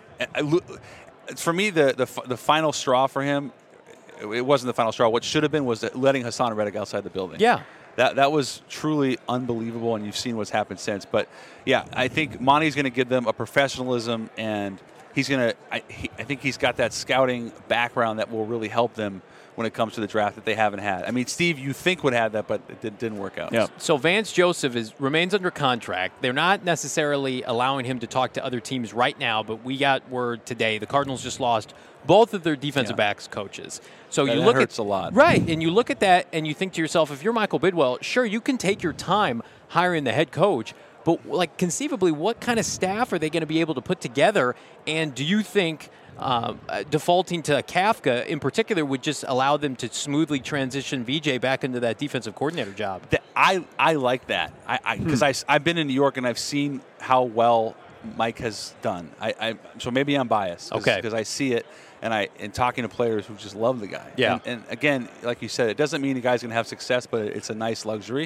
for me, the final straw for him, it wasn't the final straw. What should have been was letting Hassan Reddick outside the building. Yeah. That was truly unbelievable, and you've seen what's happened since. But, yeah, I think Monty's going to give them a professionalism, and he's going to I think he's got that scouting background that will really help them when it comes to the draft that they haven't had. I mean, Steve, you think would have that, but it didn't work out. Yeah. So Vance Joseph remains under contract. They're not necessarily allowing him to talk to other teams right now, but we got word today the Cardinals just lost both of their defensive backs coaches. So that you look hurts a lot. Right, and you look at that and you think to yourself, if you're Michael Bidwell, sure, you can take your time hiring the head coach, but conceivably, what kind of staff are they going to be able to put together? And do you think defaulting to Kafka in particular would just allow them to smoothly transition VJ back into that defensive coordinator job? I like that because I've been in New York and I've seen how well Mike has done. So maybe I'm biased because I see it and talking to players who just love the guy. Yeah. And again, like you said, it doesn't mean the guy's going to have success, but it's a nice luxury.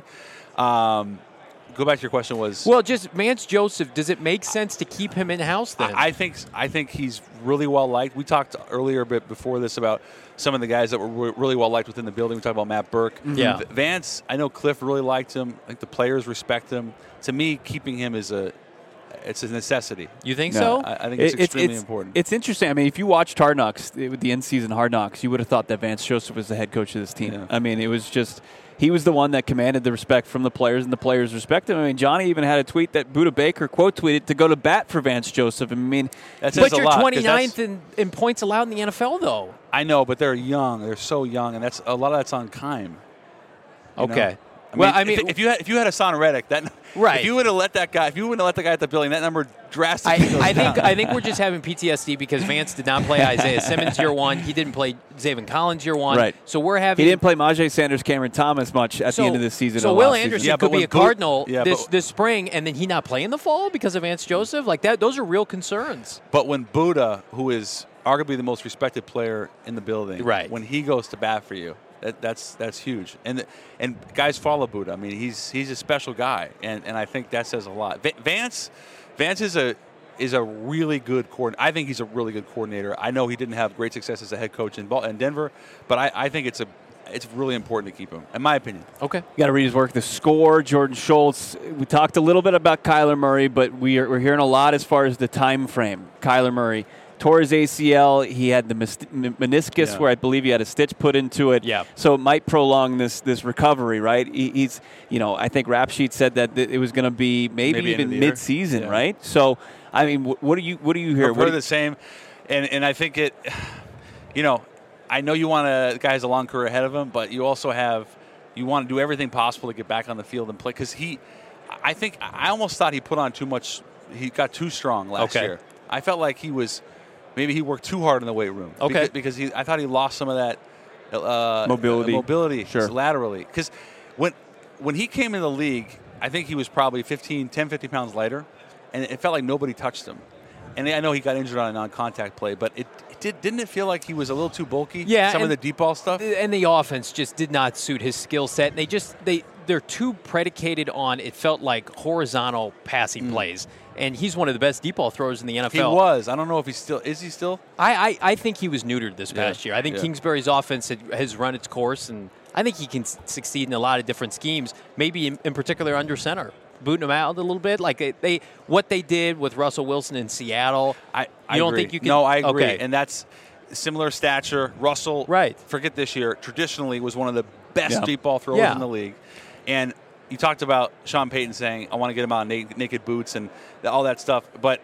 Go back to your question was... Well, just Vance Joseph, does it make sense to keep him in-house then? I think he's really well-liked. We talked earlier a bit before this about some of the guys that were really well-liked within the building. We talked about Matt Burke. Yeah. Vance, I know Cliff really liked him. I think the players respect him. To me, keeping him is it's a necessity. You think so? I think it's extremely important. It's interesting. I mean, if you watched Hard Knocks, with the in-season Hard Knocks, you would have thought that Vance Joseph was the head coach of this team. Yeah. I mean, it was just... He was the one that commanded the respect from the players, and the players respect him. I mean, Johnny even had a tweet that Buda Baker quote tweeted to go to bat for Vance Joseph. I mean, that says but you're a lot, 29th in points allowed in the NFL, though. I know, but they're young. They're so young, and that's a lot of that's on Keim. Okay. I mean, if you had Hassan Reddick, right. If you would have let that guy, at the building, that number drastically goes down. I think we're just having PTSD because Vance did not play Isaiah Simmons year one. He didn't play Zaven Collins year one. Right. So we're having. He didn't play Majay Sanders, Cameron Thomas much at the end of the season. So Will Anderson could be a Cardinal this spring, and then he not play in the fall because of Vance Joseph. Like that, those are real concerns. But when Buda, who is arguably the most respected player in the building, right. when he goes to bat for you. That's huge, and guys follow Buda. I mean, he's a special guy, and I think that says a lot. Vance is a really good coordinator. I think he's a really good coordinator. I know he didn't have great success as a head coach in Denver, but I think it's really important to keep him, in my opinion. Okay, you got to read his work. The Score, Jordan Schultz. We talked a little bit about Kyler Murray, but we're hearing a lot as far as the time frame. Kyler Murray. tore his ACL. He had the meniscus where I believe he had a stitch put into it. Yeah. So it might prolong this recovery, right? He's, I think Rap Sheet said that it was going to be maybe even mid-season, right? So, I mean, what do you hear? We're the same, and I think it. I know you want a guy has a long career ahead of him, but you also you want to do everything possible to get back on the field and play because I almost thought he put on too much. He got too strong last year. I felt like he worked too hard in the weight room. Okay. Because I thought he lost some of that mobility laterally. Because when he came in the league, I think he was probably 10, 15 pounds lighter, and it felt like nobody touched him. And I know he got injured on a non-contact play, but didn't it feel like he was a little too bulky? Yeah, some of the deep ball stuff. And the offense just did not suit his skill set. And they're too predicated on, it felt like, horizontal passing plays. And he's one of the best deep ball throwers in the NFL. He was. I don't know if he's still. Is he still? I think he was neutered this past year. I think Kingsbury's offense has run its course, and I think he can succeed in a lot of different schemes. Maybe in particular under center, booting him out a little bit. Like what they did with Russell Wilson in Seattle. I don't agree. think you can. No, I agree. Okay. And that's similar stature. Russell. Right. Forget this year. Traditionally, was one of the best deep ball throwers in the league, and. You talked about Sean Payton saying, I want to get him on naked boots and all that stuff. But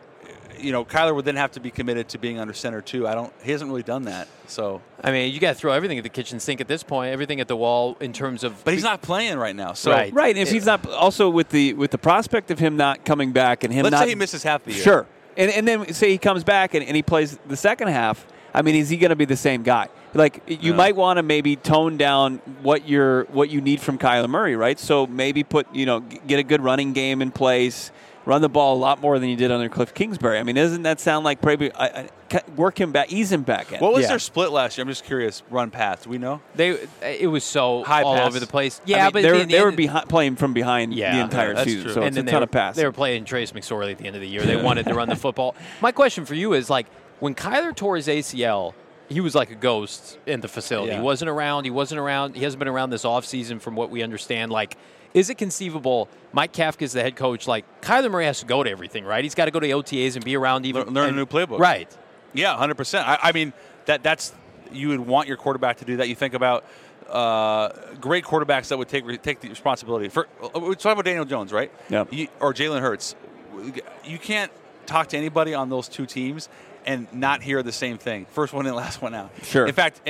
Kyler would then have to be committed to being under center, too. He hasn't really done that. So I mean, you got to throw everything at the kitchen sink at this point, everything at the wall in terms of. But he's not playing right now. So right. If he's not, also with the prospect of him not coming back and him let's say he misses half the year. Sure. And then say he comes back and he plays the second half. I mean, is he going to be the same guy? Like, you might want to maybe tone down what you need from Kyler Murray, right? So maybe get a good running game in place, run the ball a lot more than you did under Cliff Kingsbury. I mean, doesn't that sound like probably work him back, ease him back in? What was their split last year? I'm just curious. Run pass, do we know? It was so high all pass. over the place. Yeah, but they were playing from behind the entire season, true. so it's a ton of pass. They were playing Trace McSorley at the end of the year. They wanted to run the football. My question for you is, like, when Kyler tore his ACL, he was like a ghost in the facility. Yeah. He wasn't around. He hasn't been around this offseason from what we understand. Like, is it conceivable Mike Kafka is the head coach? Like, Kyler Murray has to go to everything, right? He's got to go to OTAs and be around even. Learn a new playbook. Right. Yeah, 100%. I mean, that's you would want your quarterback to do that. You think about great quarterbacks that would take the responsibility. We're talking about Daniel Jones, right? Yeah. Or Jalen Hurts. You can't talk to anybody on those two teams and not hear the same thing. First one in, last one out. Sure. In fact,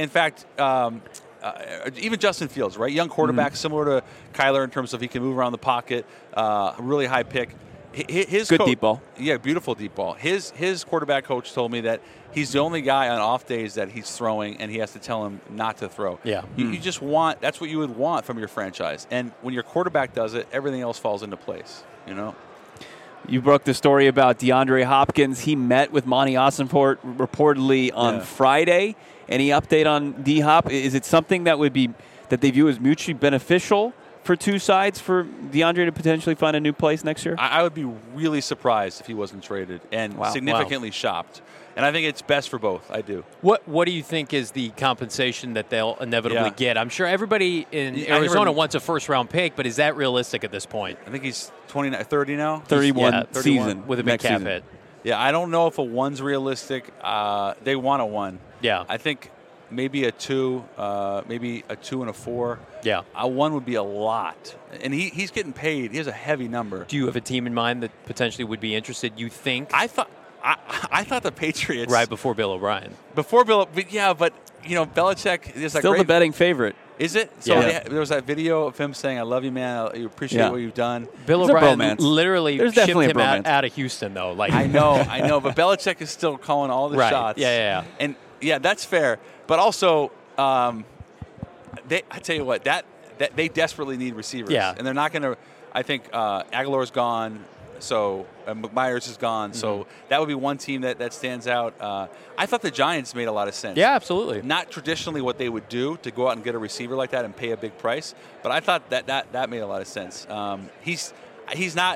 even Justin Fields, right? Young quarterback, similar to Kyler in terms of he can move around the pocket, really high pick. His good deep ball. Yeah, beautiful deep ball. His quarterback coach told me that he's the only guy on off days that he's throwing, and he has to tell him not to throw. Yeah. You just want, that's what you would want from your franchise. And when your quarterback does it, everything else falls into place, You broke the story about DeAndre Hopkins. He met with Monty Ossenfort reportedly on Friday. Any update on D-Hop? Is it something that they view as mutually beneficial for two sides for DeAndre to potentially find a new place next year? I would be really surprised if he wasn't traded and significantly shopped. And I think it's best for both. I do. What do you think is the compensation that they'll inevitably get? I'm sure everybody in Arizona wants a first-round pick, but is that realistic at this point? I think he's 30 now. 31 season. With a big cap hit. Yeah, I don't know if a 1's realistic. They want a 1. Yeah. I think maybe a 2, maybe a 2 and a 4. Yeah. A 1 would be a lot. And he's getting paid. He has a heavy number. Do you have a team in mind that potentially would be interested, you think? I thought the Patriots. Right before Bill O'Brien. But Belichick is still the betting favorite. Is it? So there was that video of him saying, I love you, man. I appreciate what you've done. Bill O'Brien literally shipped him out of Houston, though. Like I know. But Belichick is still calling all the shots. Yeah. And, that's fair. But also, I tell you what, that they desperately need receivers. Yeah. And they're not going to – I think Aguilar's gone. So McMyers is gone. So that would be one team that stands out. I thought the Giants made a lot of sense. Yeah, absolutely. Not traditionally what they would do to go out and get a receiver like that and pay a big price, but I thought that made a lot of sense. He's not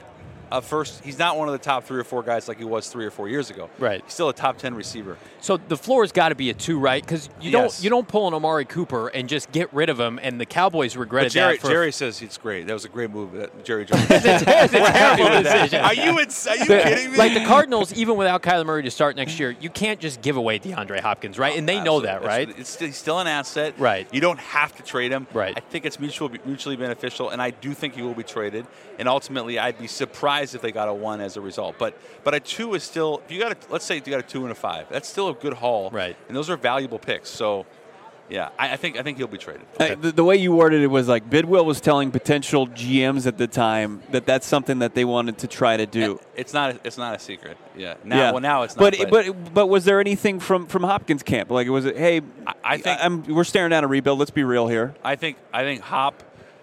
He's not one of the top 3 or 4 guys like he was 3 or 4 years ago. Right. He's still a top 10 receiver. So the floor's got to be a 2, right? Because you don't pull an Amari Cooper and just get rid of him, and the Cowboys regretted that. Jerry says it's great. That was a great move. Jerry Jones. It's a terrible decision. Are you kidding me? Like the Cardinals, even without Kyler Murray to start next year, you can't just give away DeAndre Hopkins, right? And they know that, right? He's still an asset. Right. You don't have to trade him. Right. I think it's mutually beneficial, and I do think he will be traded. And ultimately, I'd be surprised if they got a 1 as a result. But a 2 is still. Let's say you got a 2 and a 5. That's still a good haul. Right. And those are valuable picks. So, yeah, I think he'll be traded. Okay. The way you worded it was like Bidwill was telling potential GMs at the time that that's something that they wanted to try to do. It's not a secret. Yeah. Well, now it's not. But was there anything from Hopkins' camp? Like, was it? Hey, I think we're staring down a rebuild. Let's be real here. I think Hop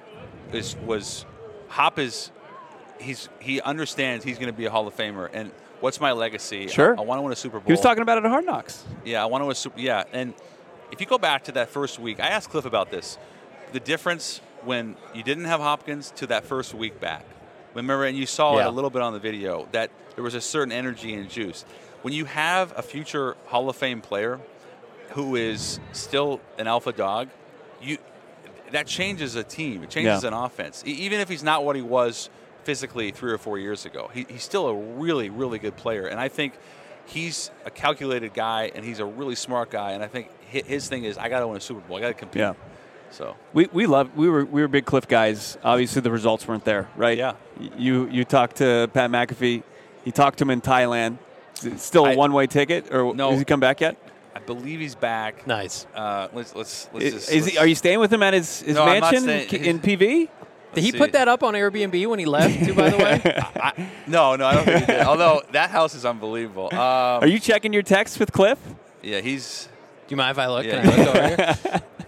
he understands he's going to be a Hall of Famer. And what's my legacy? Sure. I want to win a Super Bowl. He was talking about it at Hard Knocks. Yeah, I want to win a Super. Yeah, and if you go back to that first week, I asked Cliff about this. The difference when you didn't have Hopkins to that first week back. Remember, and you saw it a little bit on the video, that there was a certain energy and juice. When you have a future Hall of Fame player who is still an alpha dog, that changes a team. It changes an offense. Even if he's not what he was physically 3 or 4 years ago, he's still a really, really good player. And I think he's a calculated guy, and he's a really smart guy. And I think his thing is, I got to win a Super Bowl. I got to compete. Yeah. So we were big Cliff guys. Obviously, the results weren't there, right? Yeah. You talked to Pat McAfee. You talked to him in Thailand. Is it still a one-way ticket, or no, has he come back yet? I believe he's back. Nice. Let's Are you staying with him at his mansion in PV? Did he put that up on Airbnb when he left, too, by the way? No, I don't think he did. Although that house is unbelievable. Are you checking your texts with Cliff? Yeah, he's. Do you mind if I look? Yeah, Can I look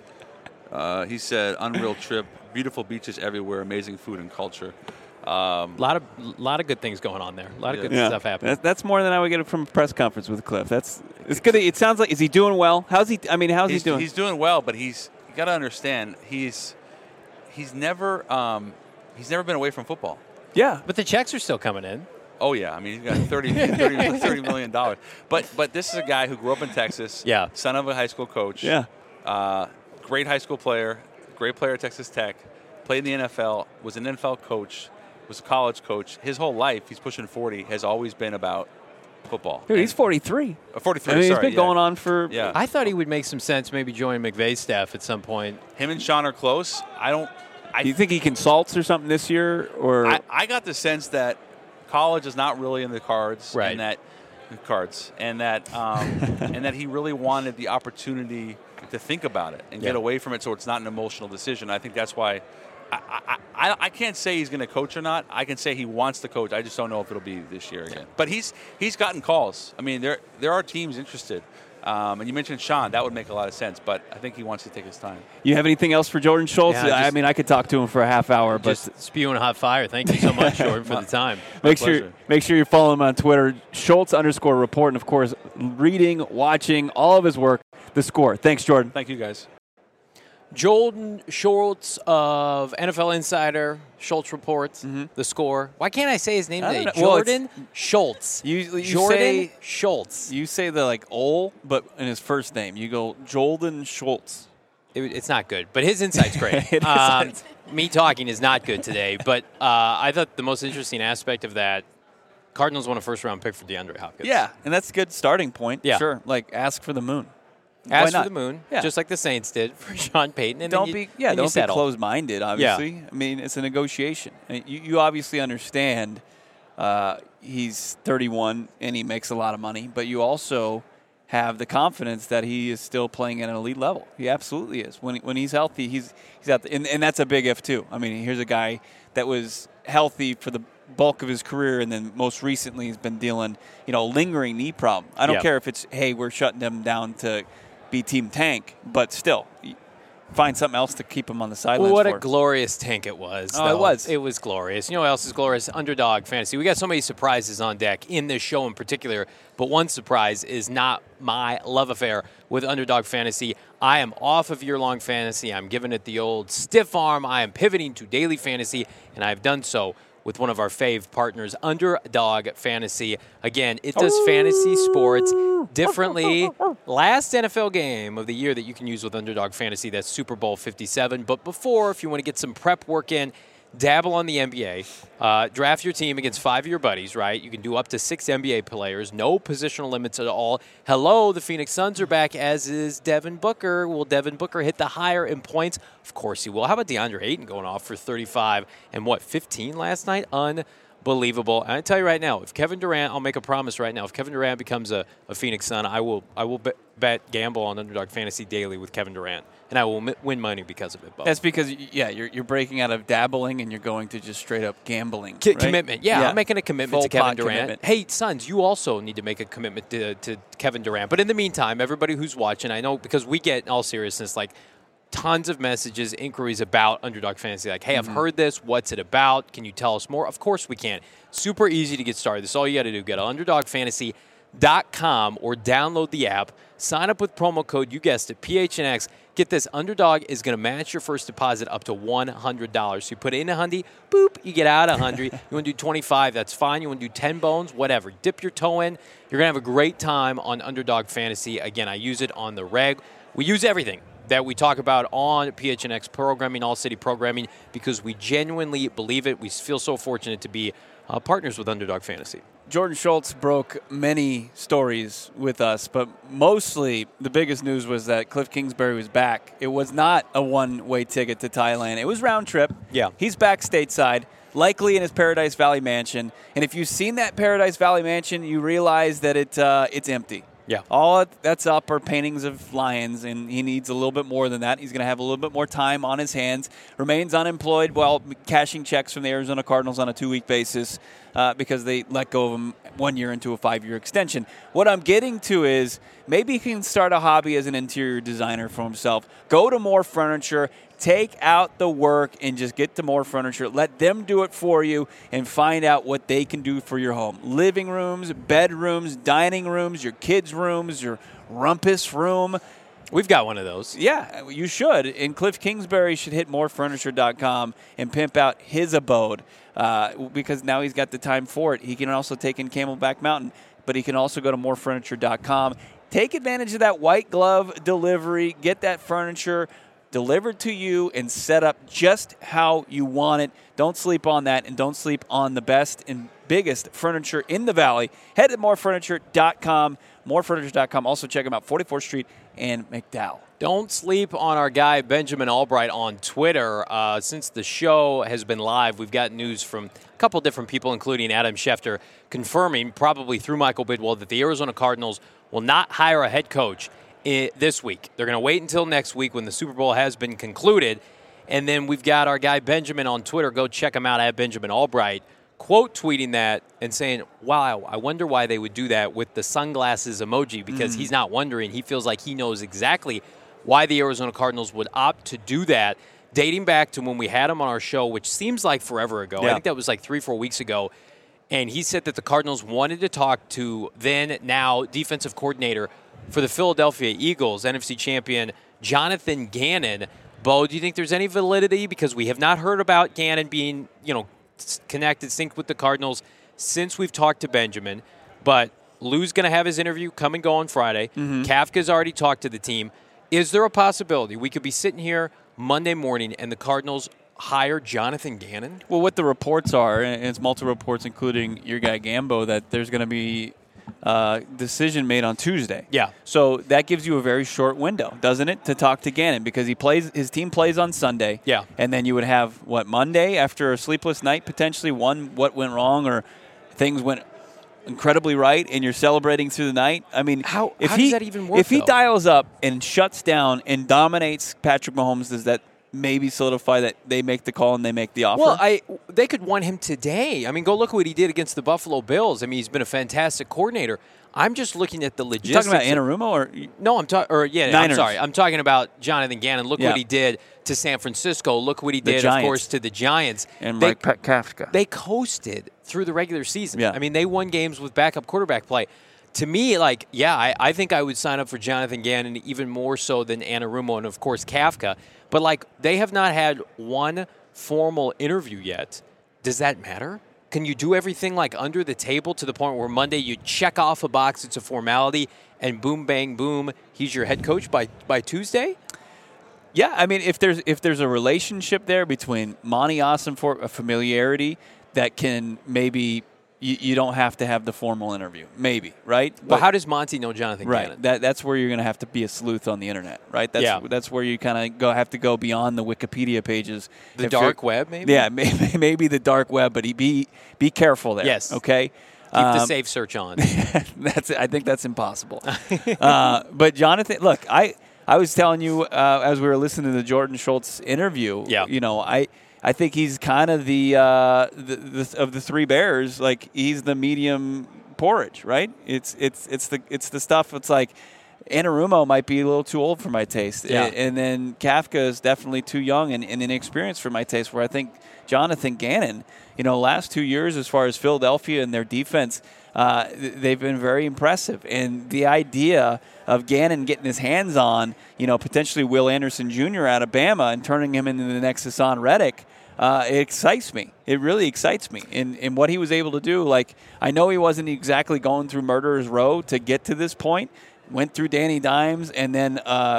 over here? He said, unreal trip, beautiful beaches everywhere, amazing food and culture. A lot of good things going on there. A lot of good stuff happening. That's more than I would get from a press conference with Cliff. It's good. It sounds like, is he doing well? How's he doing? He's doing well, but you got to understand he's never been away from football. Yeah, but the checks are still coming in. Oh yeah, I mean he's got $30 million. But this is a guy who grew up in Texas. Yeah, son of a high school coach. Yeah, great high school player, great player at Texas Tech. Played in the NFL, was an NFL coach, was a college coach. His whole life, he's pushing 40, has always been about football. Dude, he's 43. 43. I mean, he's been going on for. Yeah. I thought he would make some sense, maybe join McVay's staff at some point. Him and Sean are close. Do you think he consults or something this year, or? I got the sense that college is not really in the cards, right? And that he really wanted the opportunity to think about it and get away from it, so it's not an emotional decision. I think that's why. I can't say he's going to coach or not. I can say he wants to coach. I just don't know if it'll be this year again. But he's gotten calls. I mean, there are teams interested. And you mentioned Sean. That would make a lot of sense. But I think he wants to take his time. You have anything else for Jordan Schultz? Yeah, I mean, I could talk to him for a half hour. Just but spewing hot fire. Thank you so much, Jordan, for the time. Make sure you follow him on Twitter, Schultz_report. And, of course, reading, watching, all of his work, The Score. Thanks, Jordan. Thank you, guys. Jordan Schultz of NFL Insider, Schultz Reports, The Score. Why can't I say his name today? Jordan Schultz. Jordan Schultz. You say the Ol, but in his first name. You go Jordan Schultz. It's not good, but his insight's great. It me talking is not good today, but I thought the most interesting aspect of that, Cardinals won a first-round pick for DeAndre Hopkins. Yeah, and that's a good starting point. Yeah. Sure, ask for the moon. Ask for the moon, just like the Saints did for Sean Payton. And don't be closed-minded, obviously. Yeah. I mean, it's a negotiation. You obviously understand he's 31 and he makes a lot of money, but you also have the confidence that he is still playing at an elite level. He absolutely is. When he's healthy, he's out there. And that's a big if, too. I mean, here's a guy that was healthy for the bulk of his career, and then most recently he's been dealing, lingering knee problem. I don't care if it's, hey, we're shutting them down to be Team Tank, but still, find something else to keep him on the sidelines. What a glorious tank it was. Oh, it was. It was glorious. You know what else is glorious? Underdog Fantasy. We got so many surprises on deck in this show in particular, but one surprise is not my love affair with Underdog Fantasy. I am off of year-long fantasy. I'm giving it the old stiff arm. I am pivoting to daily fantasy, and I've done so with one of our fave partners, Underdog Fantasy. Again, it does fantasy sports differently. Last NFL game of the year that you can use with Underdog Fantasy, that's Super Bowl 57. But before, if you want to get some prep work in, dabble on the NBA. Draft your team against 5 of your buddies, right? You can do up to 6 NBA players. No positional limits at all. Hello, the Phoenix Suns are back, as is Devin Booker. Will Devin Booker hit the higher in points? Of course he will. How about DeAndre Ayton going off for 35 and 15 last night? Unbelievable. And I tell you right now, if Kevin Durant, I'll make a promise right now, if Kevin Durant becomes a Phoenix Sun, I will gamble on Underdog Fantasy daily with Kevin Durant. And I will win money because of it, Bo. That's because, you're breaking out of dabbling and you're going to just straight up gambling. Right? Commitment. Yeah, I'm making a commitment Full to Kevin Durant. Commitment. Hey, Suns, you also need to make a commitment to Kevin Durant. But in the meantime, everybody who's watching, I know because we get, in all seriousness, like tons of messages, inquiries about Underdog Fantasy. Like, hey, I've heard this. What's it about? Can you tell us more? Of course we can. Super easy to get started. This is all you got to do. Go to UnderdogFantasy.com or download the app. Sign up with promo code, you guessed it, PHNX. Get this, Underdog is going to match your first deposit up to $100. So you put in $100, boop, you get out $100. You want to do 25, that's fine. You want to do 10 bones, whatever. Dip your toe in. You're going to have a great time on Underdog Fantasy. Again, I use it on the reg. We use everything that we talk about on PHNX programming, All City Programming, because we genuinely believe it. We feel so fortunate to be partners with Underdog Fantasy. Jordan Schultz broke many stories with us, but mostly the biggest news was that Cliff Kingsbury was back. It was not a one-way ticket to Thailand. It was round trip. Yeah. He's back stateside, likely in his Paradise Valley mansion. And if you've seen that Paradise Valley mansion, you realize that it's empty. Yeah. All that's up are paintings of lions, and he needs a little bit more than that. He's going to have a little bit more time on his hands. Remains unemployed while cashing checks from the Arizona Cardinals on a 2-week basis because they let go of him 1 year into a 5-year extension. What I'm getting to is maybe he can start a hobby as an interior designer for himself. Go to More Furniture. Take out the work and just get to More Furniture. Let them do it for you and find out what they can do for your home. Living rooms, bedrooms, dining rooms, your kids' rooms, your rumpus room. We've got one of those. Yeah, you should. And Cliff Kingsbury should hit morefurniture.com and pimp out his abode because now he's got the time for it. He can also take in Camelback Mountain, but he can also go to morefurniture.com. Take advantage of that white glove delivery. Get that furniture delivered to you and set up just how you want it. Don't sleep on that, and don't sleep on the best and biggest furniture in the Valley. Head to morefurniture.com, morefurniture.com. Also check them out, 44th Street and McDowell. Don't sleep on our guy Benjamin Albright on Twitter. Since the show has been live, we've got news from a couple different people, including Adam Schefter, confirming, probably through Michael Bidwell, that the Arizona Cardinals will not hire a head coach this week. They're going to wait until next week when the Super Bowl has been concluded. And then we've got our guy Benjamin on Twitter. Go check him out at Benjamin Albright, quote tweeting that and saying, wow, I wonder why they would do that with the sunglasses emoji, because he's not wondering. He feels like he knows exactly why the Arizona Cardinals would opt to do that, dating back to when we had him on our show, which seems like forever ago. Yeah. I think that was like 3-4 weeks ago. And he said that the Cardinals wanted to talk to now defensive coordinator for the Philadelphia Eagles, NFC champion Jonathan Gannon. Bo, do you think there's any validity? Because we have not heard about Gannon being, connected, synced with the Cardinals since we've talked to Benjamin. But Lou's going to have his interview come and go on Friday. Kafka's already talked to the team. Is there a possibility we could be sitting here Monday morning and the Cardinals hire Jonathan Gannon? Well, what the reports are, and it's multiple reports, including your guy Gambo, that there's going to be decision made on Tuesday. Yeah. So that gives you a very short window, doesn't it, to talk to Gannon, because his team plays on Sunday. Yeah. And then you would have Monday after a sleepless night, potentially what went wrong or things went incredibly right, and you're celebrating through the night. I mean, how does that even work? If he though? dials up and shuts down and dominates Patrick Mahomes, does that maybe solidify that they make the call and they make the offer? Well, they could want him today. I mean, go look at what he did against the Buffalo Bills. I mean, he's been a fantastic coordinator. I'm just looking at the logistics. You talking about Anarumo or no? I'm Niners. sorry. I'm talking about Jonathan Gannon. Look what he did to San Francisco. Look what he did, of course, to the Giants. And Mike Kafka. They coasted through the regular season. Yeah. I mean, they won games with backup quarterback play. To me, I think I would sign up for Jonathan Gannon even more so than Anarumo and, of course, Kafka. But, they have not had one formal interview yet. does that matter? Can you do everything like under the table to the point where Monday you check off a box, it's a formality, and boom, bang, boom, he's your head coach by Tuesday? Yeah, I mean, if there's a relationship there between Monty Ossenfort, a familiarity that can maybe you don't have to have the formal interview, maybe, right? Well, how does Monty know Jonathan Gannon? Right, that's where you're going to have to be a sleuth on the internet, right? That's where you kind of have to go beyond the Wikipedia pages. The dark web, maybe? Yeah, maybe the dark web, but be careful there. Yes. Okay? Keep the safe search on. I think that's impossible. But Jonathan, look, I was telling you as we were listening to the Jordan Schultz interview, I think he's kind of the of the three bears, like he's the medium porridge, right? It's the stuff. It's like Anarumo might be a little too old for my taste, and then Kafka is definitely too young and inexperienced for my taste. Where I think Jonathan Gannon, last 2 years as far as Philadelphia and their defense, they've been very impressive. And the idea of Gannon getting his hands on, potentially Will Anderson Jr. out of Bama and turning him into the next Hassan Reddick, it excites me. It really excites me. In what he was able to do, like, I know he wasn't exactly going through murderer's row to get to this point. Went through Danny Dimes and then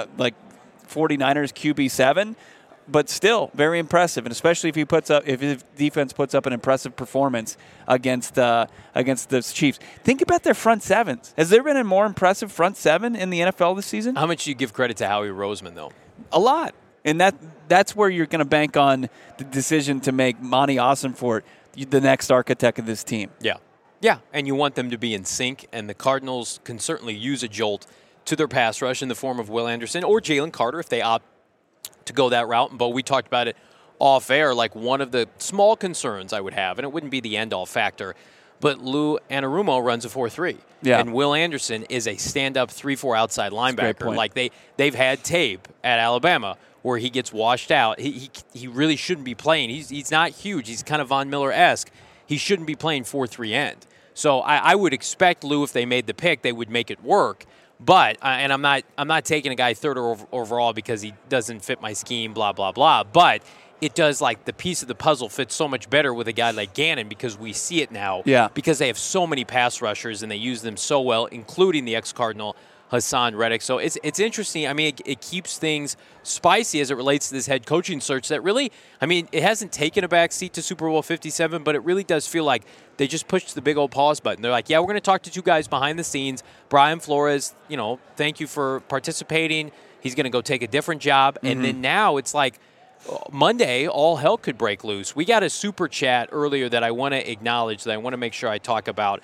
49ers QB7. But still, very impressive, and especially if his defense puts up an impressive performance against the Chiefs. Think about their front sevens. Has there been a more impressive front seven in the NFL this season? How much do you give credit to Howie Roseman, though? A lot, and that's where you're going to bank on the decision to make Monty Ossenfort the next architect of this team. Yeah, and you want them to be in sync, and the Cardinals can certainly use a jolt to their pass rush in the form of Will Anderson or Jalen Carter if they opt to go that route. But we talked about it off air, like one of the small concerns I would have, and it wouldn't be the end-all factor, but Lou Anarumo runs a 4-3. Yeah. And Will Anderson is a stand-up 3-4 outside linebacker. Like they've had tape at Alabama where he gets washed out. He really shouldn't be playing. He's not huge. He's kind of Von Miller-esque. He shouldn't be playing 4-3 end. So I would expect Lou, if they made the pick, they would make it work. But and I'm not taking a guy third overall because he doesn't fit my scheme, blah blah blah. But it does, like, the piece of the puzzle fits so much better with a guy like Gannon because we see it now. Yeah. Because they have so many pass rushers and they use them so well, including the ex-Cardinal Hassan Reddick. So it's interesting. I mean, it keeps things spicy as it relates to this head coaching search that really, I mean, it hasn't taken a back seat to Super Bowl 57, but it really does feel like they just pushed the big old pause button. They're like, yeah, we're going to talk to two guys behind the scenes. Brian Flores, thank you for participating. He's going to go take a different job. Mm-hmm. And then now it's like Monday, all hell could break loose. We got a super chat earlier that I want to acknowledge, that I want to make sure I talk about.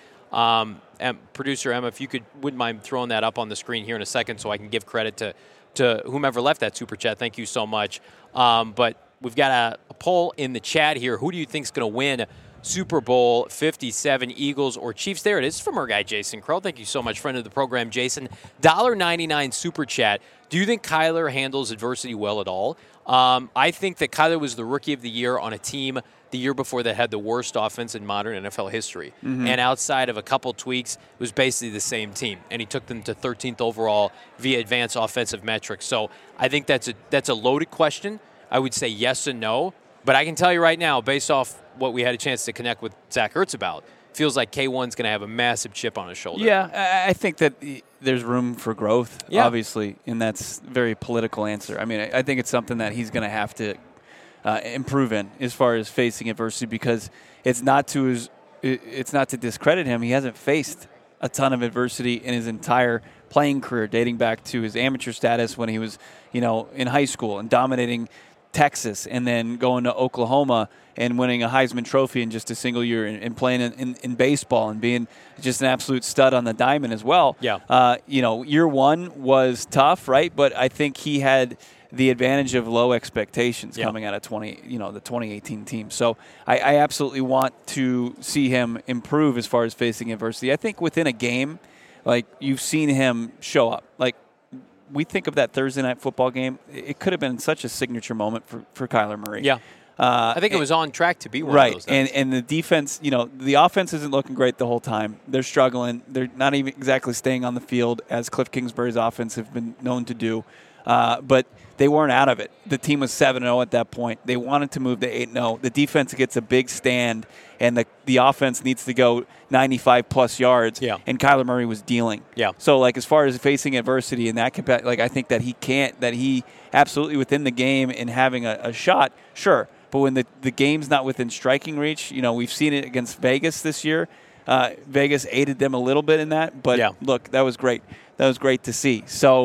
And producer Emma, if you wouldn't mind throwing that up on the screen here in a second so I can give credit to whomever left that super chat. Thank you so much. But we've got a poll in the chat here. Who do you think is going to win Super Bowl 57, Eagles or Chiefs? There it is from our guy Jason Crow. Thank you so much, friend of the program, Jason. $1.99 super chat. Do you think Kyler handles adversity well at all? I think that Kyler was the rookie of the year on a team the year before that had the worst offense in modern NFL history. Mm-hmm. And outside of a couple tweaks, it was basically the same team. And he took them to 13th overall via advanced offensive metrics. So I think that's a loaded question. I would say yes and no. But I can tell you right now, based off what we had a chance to connect with Zach Ertz about, feels like K1's going to have a massive chip on his shoulder. Yeah, I think that there's room for growth, obviously, and that's a very political answer. I mean, I think it's something that he's going to have to improve in as far as facing adversity, because it's not to discredit him. He hasn't faced a ton of adversity in his entire playing career, dating back to his amateur status when he was, in high school and dominating Texas, and then going to Oklahoma and winning a Heisman Trophy in just a single year, and playing in baseball and being just an absolute stud on the diamond as well. Yeah. Year one was tough, right? But I think he had the advantage of low expectations coming out of the 2018 team. So I absolutely want to see him improve as far as facing adversity. I think within a game, like, you've seen him show up. Like, we think of that Thursday night football game. It could have been such a signature moment for Kyler Murray. Yeah. I think it was on track to be one of those. Right, and the defense, the offense isn't looking great the whole time. They're struggling. They're not even exactly staying on the field, as Cliff Kingsbury's offense have been known to do. but they weren't out of it. The team was 7-0 at that point. They wanted to move to 8-0. The defense gets a big stand, and the offense needs to go 95-plus yards, and Kyler Murray was dealing. Yeah. So, as far as facing adversity in that I think that he absolutely within the game and having a shot, sure. But when the game's not within striking reach, we've seen it against Vegas this year. Vegas aided them a little bit in that, but look, that was great. That was great to see. So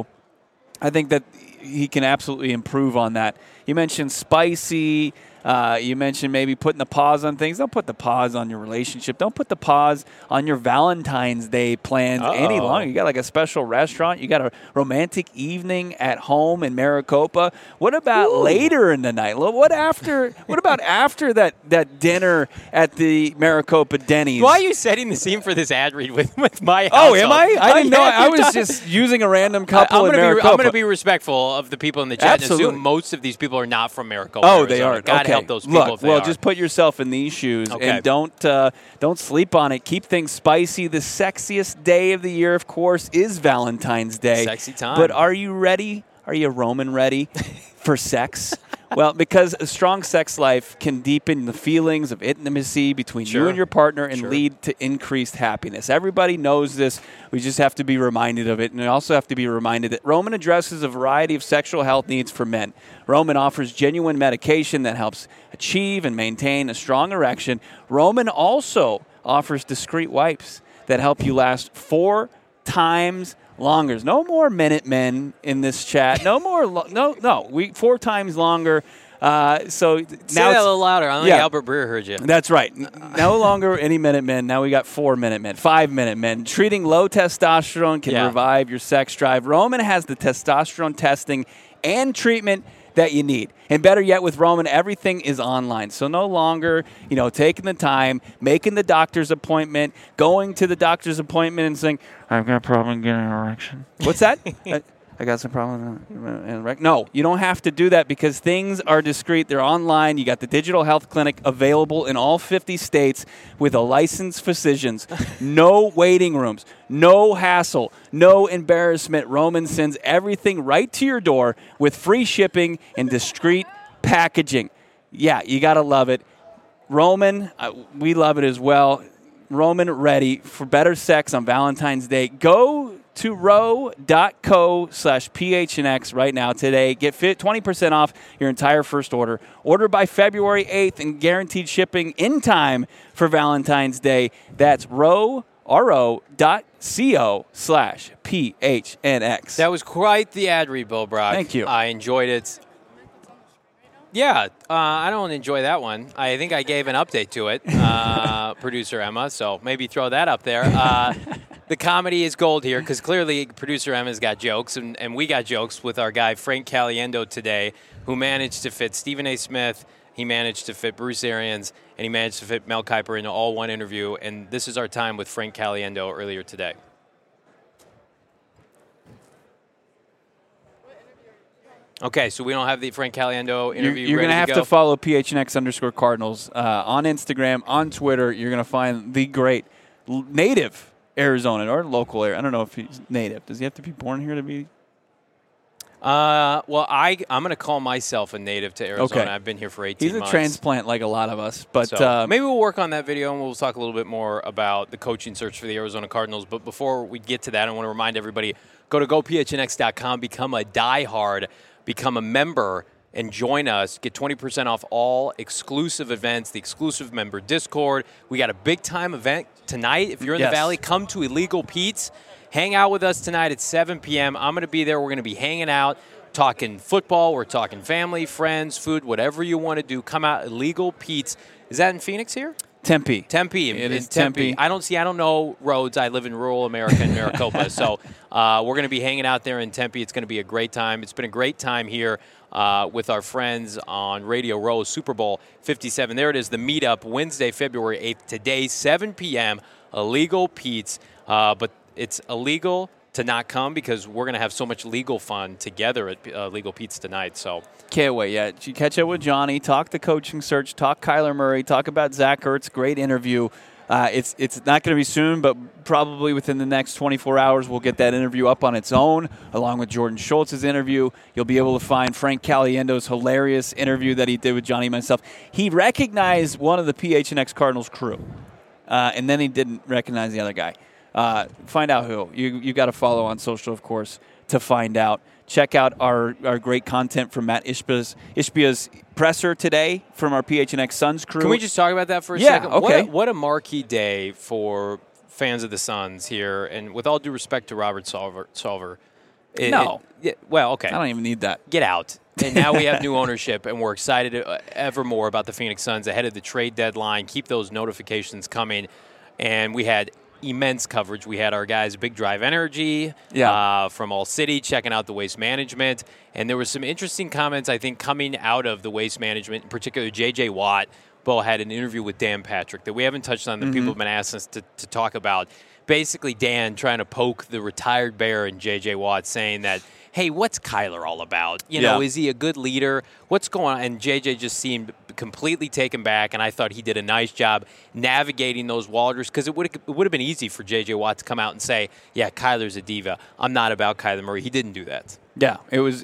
I think that he can absolutely improve on that. You mentioned spicy. You mentioned maybe putting the pause on things. Don't put the pause on your relationship. Don't put the pause on your Valentine's Day plans any longer. You got a special restaurant. You got a romantic evening at home in Maricopa. What about later in the night? What about after that dinner at the Maricopa Denny's? Why are you setting the scene for this ad read with my house? Oh, am I? I didn't know. I was just using a random couple in Maricopa. I'm going to be respectful of the people in the chat Absolutely. and assume most of these people are not from Maricopa. Oh, Arizona. they are. God help those people if they are. Just put yourself in these shoes and don't sleep on it. Keep things spicy. The sexiest day of the year, of course, is Valentine's Day. Sexy time. But are you ready? Are you Roman ready for sex? Well, because a strong sex life can deepen the feelings of intimacy between you and your partner and lead to increased happiness. Everybody knows this. We just have to be reminded of it. And we also have to be reminded that Roman addresses a variety of sexual health needs for men. Roman offers genuine medication that helps achieve and maintain a strong erection. Roman also offers discreet wipes that help you last 4 times longer. No more Minutemen in this chat. No more. No. 4 times longer. So now say that a little louder. I don't think Albert Breer heard you. That's right. No longer any Minutemen. Now we got 4 Minutemen, 5 Minutemen. Treating low testosterone can revive your sex drive. Roman has the testosterone testing and treatment that you need. And better yet, with Roman, everything is online. So no longer, taking the time, making the doctor's appointment, going to the doctor's appointment and saying, I've got a problem getting an erection. What's that? I got some problem. No, you don't have to do that because things are discreet. They're online. You got the Digital Health Clinic available in all 50 states with a licensed physicians. No waiting rooms. No hassle. No embarrassment. Roman sends everything right to your door with free shipping and discreet packaging. Yeah, you got to love it. Roman, we love it as well. Roman ready for better sex on Valentine's Day. Go to row.co/PHNX right now today. Get 20% off your entire first order. Order by February 8th and guaranteed shipping in time for Valentine's Day. That's row.co/PHNX. That was quite the ad read, Bill Brock. Thank you. I enjoyed it. Yeah, I don't enjoy that one. I think I gave an update to it, producer Emma, so maybe throw that up there. The comedy is gold here because clearly producer Emma's got jokes, and we got jokes with our guy Frank Caliendo today, who managed to fit Stephen A. Smith, he managed to fit Bruce Arians, and he managed to fit Mel Kiper into all one interview, and this is our time with Frank Caliendo earlier today. Okay, so we don't have the Frank Caliendo interview. You're going to have to follow PHNX_Cardinals on Instagram, on Twitter. You're going to find the great native Arizona or local area. I don't know if he's native. Does he have to be born here to be? Well, I'm going to call myself a native to Arizona. Okay. I've been here for 18 months. He's a transplant like a lot of us. But so maybe we'll work on that video and we'll talk a little bit more about the coaching search for the Arizona Cardinals. But before we get to that, I want to remind everybody, go to gophnx.com, become a diehard, become a member, and join us. Get 20% off all exclusive events, the exclusive member Discord. We got a big-time event tonight. If you're in the Valley, come to Illegal Pete's. Hang out with us tonight at 7 p.m. I'm going to be there. We're going to be hanging out, talking football. We're talking family, friends, food, whatever you want to do. Come out, Illegal Pete's. Is that in Phoenix here? Tempe. It is Tempe. I don't know roads. I live in rural America in Maricopa. So we're going to be hanging out there in Tempe. It's going to be a great time. It's been a great time here with our friends on Radio Row, Super Bowl 57. There it is, the meetup, Wednesday, February 8th. Today, 7 p.m., Illegal Pete's. But it's illegal to not come because we're going to have so much legal fun together at Legal Pete's tonight. So can't wait. Yeah, you catch up with Johnny, talk the coaching search, talk Kyler Murray, talk about Zach Ertz. Great interview. It's not going to be soon, but probably within the next 24 hours, we'll get that interview up on its own, along with Jordan Schultz's interview. You'll be able to find Frank Caliendo's hilarious interview that he did with Johnny and myself. He recognized one of the PHNX Cardinals crew, and then he didn't recognize the other guy. Find out who. You got to follow on social, of course, to find out. Check out our great content from Matt Ishbia's presser today from our PHNX Suns crew. Can we just talk about that for a second? Okay. What a marquee day for fans of the Suns here. And with all due respect to Robert Solver. Okay. I don't even need that. Get out. And now we have new ownership, and we're excited ever more about the Phoenix Suns ahead of the trade deadline. Keep those notifications coming. And we had immense coverage. We had our guys, Big Drive Energy from All City, checking out the waste management. And there was some interesting comments, I think, coming out of the waste management, in particular J.J. Watt. Bo had an interview with Dan Patrick that we haven't touched on, that people have been asking us to talk about. Basically, Dan trying to poke the retired Bear and J.J. Watt, saying that, hey, what's Kyler all about? You know, is he a good leader? What's going on? And J.J. just seemed completely taken back, and I thought he did a nice job navigating those waters, because it would have been easy for J.J. Watt to come out and say, yeah, Kyler's a diva. I'm not about Kyler Murray. He didn't do that. Yeah, it was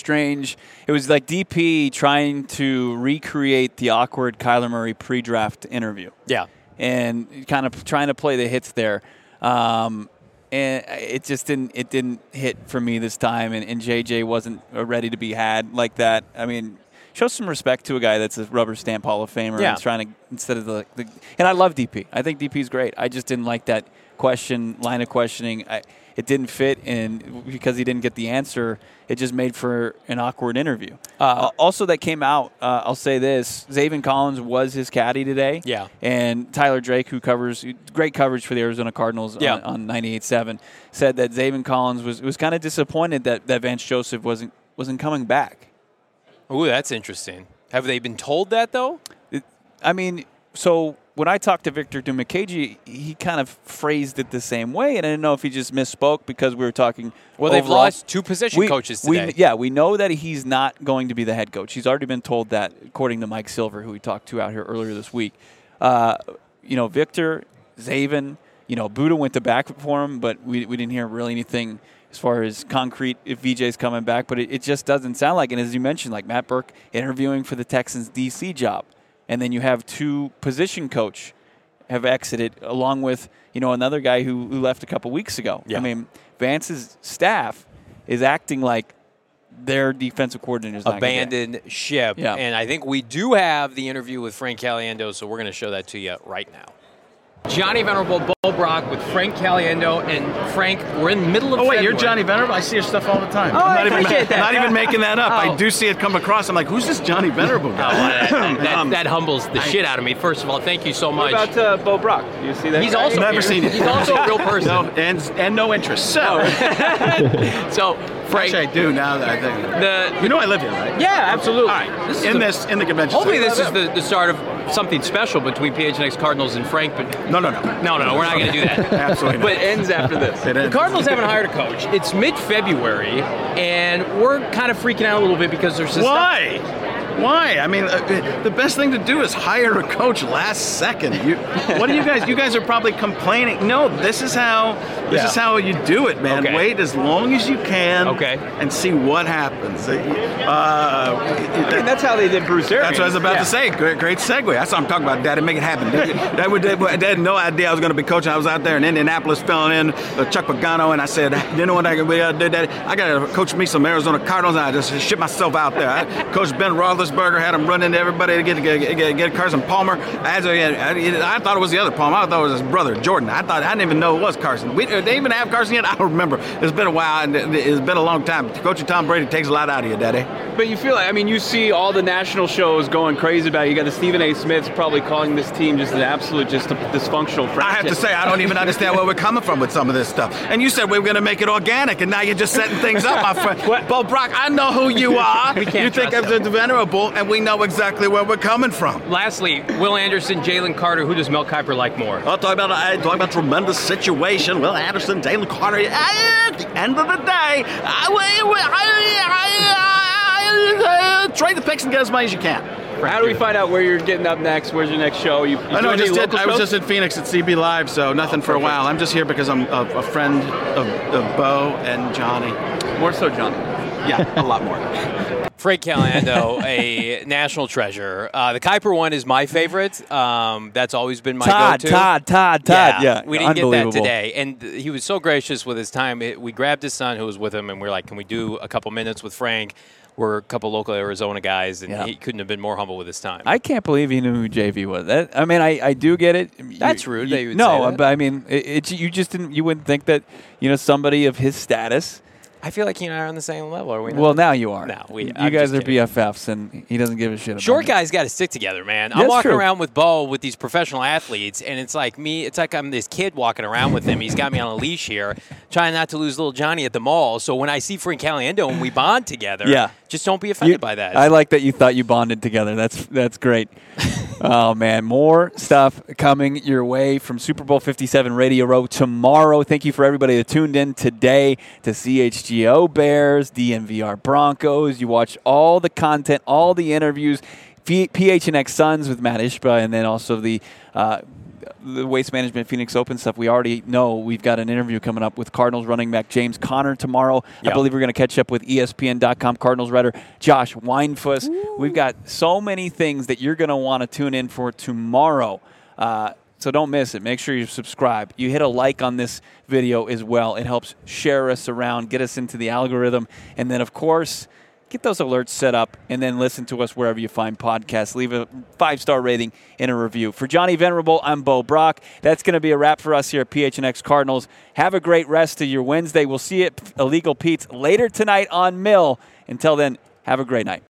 like DP trying to recreate the awkward Kyler Murray pre-draft interview. Yeah. And kind of trying to play the hits there. And it just didn't hit for me this time, and JJ wasn't ready to be had like that. I mean, show some respect to a guy that's a rubber stamp Hall of Famer. And trying to, instead of the and I love DP. I think DP's great. I just didn't like that line of questioning. It didn't fit, and because he didn't get the answer, it just made for an awkward interview. Also, that came out, I'll say this, Zaven Collins was his caddy today. Yeah. And Tyler Drake, who covers great coverage for the Arizona Cardinals on 98.7, said that Zaven Collins was kind of disappointed that Vance Joseph wasn't coming back. Ooh, that's interesting. Have they been told that, though? So when I talked to Victor Dumakaji, he kind of phrased it the same way, and I didn't know if he just misspoke because we were talking. Well, they've lost two position coaches today. We know that he's not going to be the head coach. He's already been told that, according to Mike Silver, who we talked to out here earlier this week. Victor, Zaven, Buddha went to back for him, but we didn't hear really anything as far as concrete if VJ's coming back. But it just doesn't sound like. And as you mentioned, like Matt Burke interviewing for the Texans DC job. And then you have two position coach have exited, along with another guy who left a couple weeks ago. Yeah. I mean, Vance's staff is acting like their defensive coordinator's not abandoned ship. Yeah. And I think we do have the interview with Frank Caliendo, so we're going to show that to you right now. Johnny Venerable, Bo Brock with Frank Caliendo. And Frank, we're in the middle of February. February. You're Johnny Venerable? I see your stuff all the time. Oh, I appreciate that. Not even making that up. Oh. I do see it come across. I'm like, who's this Johnny Venerable guy? That humbles the shit out of me. First of all, thank you so much. What about Bo Brock? Do you see that? He's also Never seen it. He's also a real person. No, and no interest. So, so Frank, actually, I do now that I think. I live here, right? Yeah, absolutely. All right. In the convention. Hopefully, center. this is the start of something special between PHNX Cardinals and Frank. But No. We're not going to do that. Absolutely not. But it ends after this. The Cardinals haven't hired a coach. It's mid-February, and we're kind of freaking out a little bit because there's this Why? Why? I mean, the best thing to do is hire a coach last second. What do you guys? You guys are probably complaining. No, this is how you do it, man. Okay. Wait as long as you can. Okay. And see what happens. That's how they did Bruce Arians. That's what I was about to say. Great segue. That's what I'm talking about, Daddy. Make it happen. They had no idea I was going to be coaching. I was out there in Indianapolis filling in Chuck Pagano, and I said, you know what I did, Daddy? I got to coach me some Arizona Cardinals, and I just shipped myself out there. I coached Ben Roethlisberger, had him run into everybody to get Carson Palmer. I thought it was the other Palmer. I thought it was his brother, Jordan. I didn't even know it was Carson. They even have Carson yet? I don't remember. It's been a while, and it's been a long time. Coaching Tom Brady takes a lot out of you, Daddy. But you feel like, you see all the national shows going crazy about it. You got the Stephen A. Smiths probably calling this team just an absolute, just a dysfunctional franchise. I have to say, I don't even understand where we're coming from with some of this stuff. And you said we were going to make it organic, and now you're just setting things up, my friend. Bo Brock, I know who you are. We can't you think I'm the venerable, and we know exactly where we're coming from. Lastly, Will Anderson, Jalen Carter. Who does Mel Kiper like more? I'll talk about tremendous situation. Will Anderson, Jalen Carter. At the end of the day, trade the picks and get as many as you can. How do we find out where you're getting up next? Where's your next show? I was just in Phoenix at CB Live, so nothing for a while. I'm just here because I'm a friend of Bo and Johnny. More so, Johnny. Yeah, a lot more. Frank Caliendo, a national treasure. The Kuiper one is my favorite. That's always been my go-to. Todd. Yeah, we didn't get that today. And he was so gracious with his time. We grabbed his son who was with him, and we were like, can we do a couple minutes with Frank? We're a couple local Arizona guys, and he couldn't have been more humble with his time. I can't believe he knew who JV was. I do get it. That's rude. That you would say that. But I mean, you wouldn't think that somebody of his status. I feel like he and I are on the same level, are we not? Well, now you are. No, you guys are BFFs, and he doesn't give a shit about Short it. guys got to stick together, man. I'm walking around with Bo with these professional athletes, and it's like me. It's like I'm this kid walking around with him. He's got me on a leash here, trying not to lose little Johnny at the mall. So when I see Frank Caliendo and we bond together, just don't be offended by that. I like that you thought you bonded together. That's great. Oh, man. More stuff coming your way from Super Bowl 57 Radio Row tomorrow. Thank you for everybody that tuned in today to CHGO Bears, DNVR Broncos. You watch all the content, all the interviews, PHNX Suns with Matt Ishba, and then also the Waste Management Phoenix Open stuff. We already know we've got an interview coming up with Cardinals running back James Conner tomorrow. Yep. I believe we're going to catch up with ESPN.com Cardinals writer Josh Weinfuss. Ooh. We've got so many things that you're going to want to tune in for tomorrow. So don't miss it. Make sure you subscribe. You hit a like on this video as well. It helps share us around, get us into the algorithm. And then, of course, get those alerts set up, and then listen to us wherever you find podcasts. Leave a 5-star rating and a review. For Johnny Venerable, I'm Bo Brock. That's going to be a wrap for us here at PHNX Cardinals. Have a great rest of your Wednesday. We'll see you at Illegal Pete's later tonight on Mill. Until then, have a great night.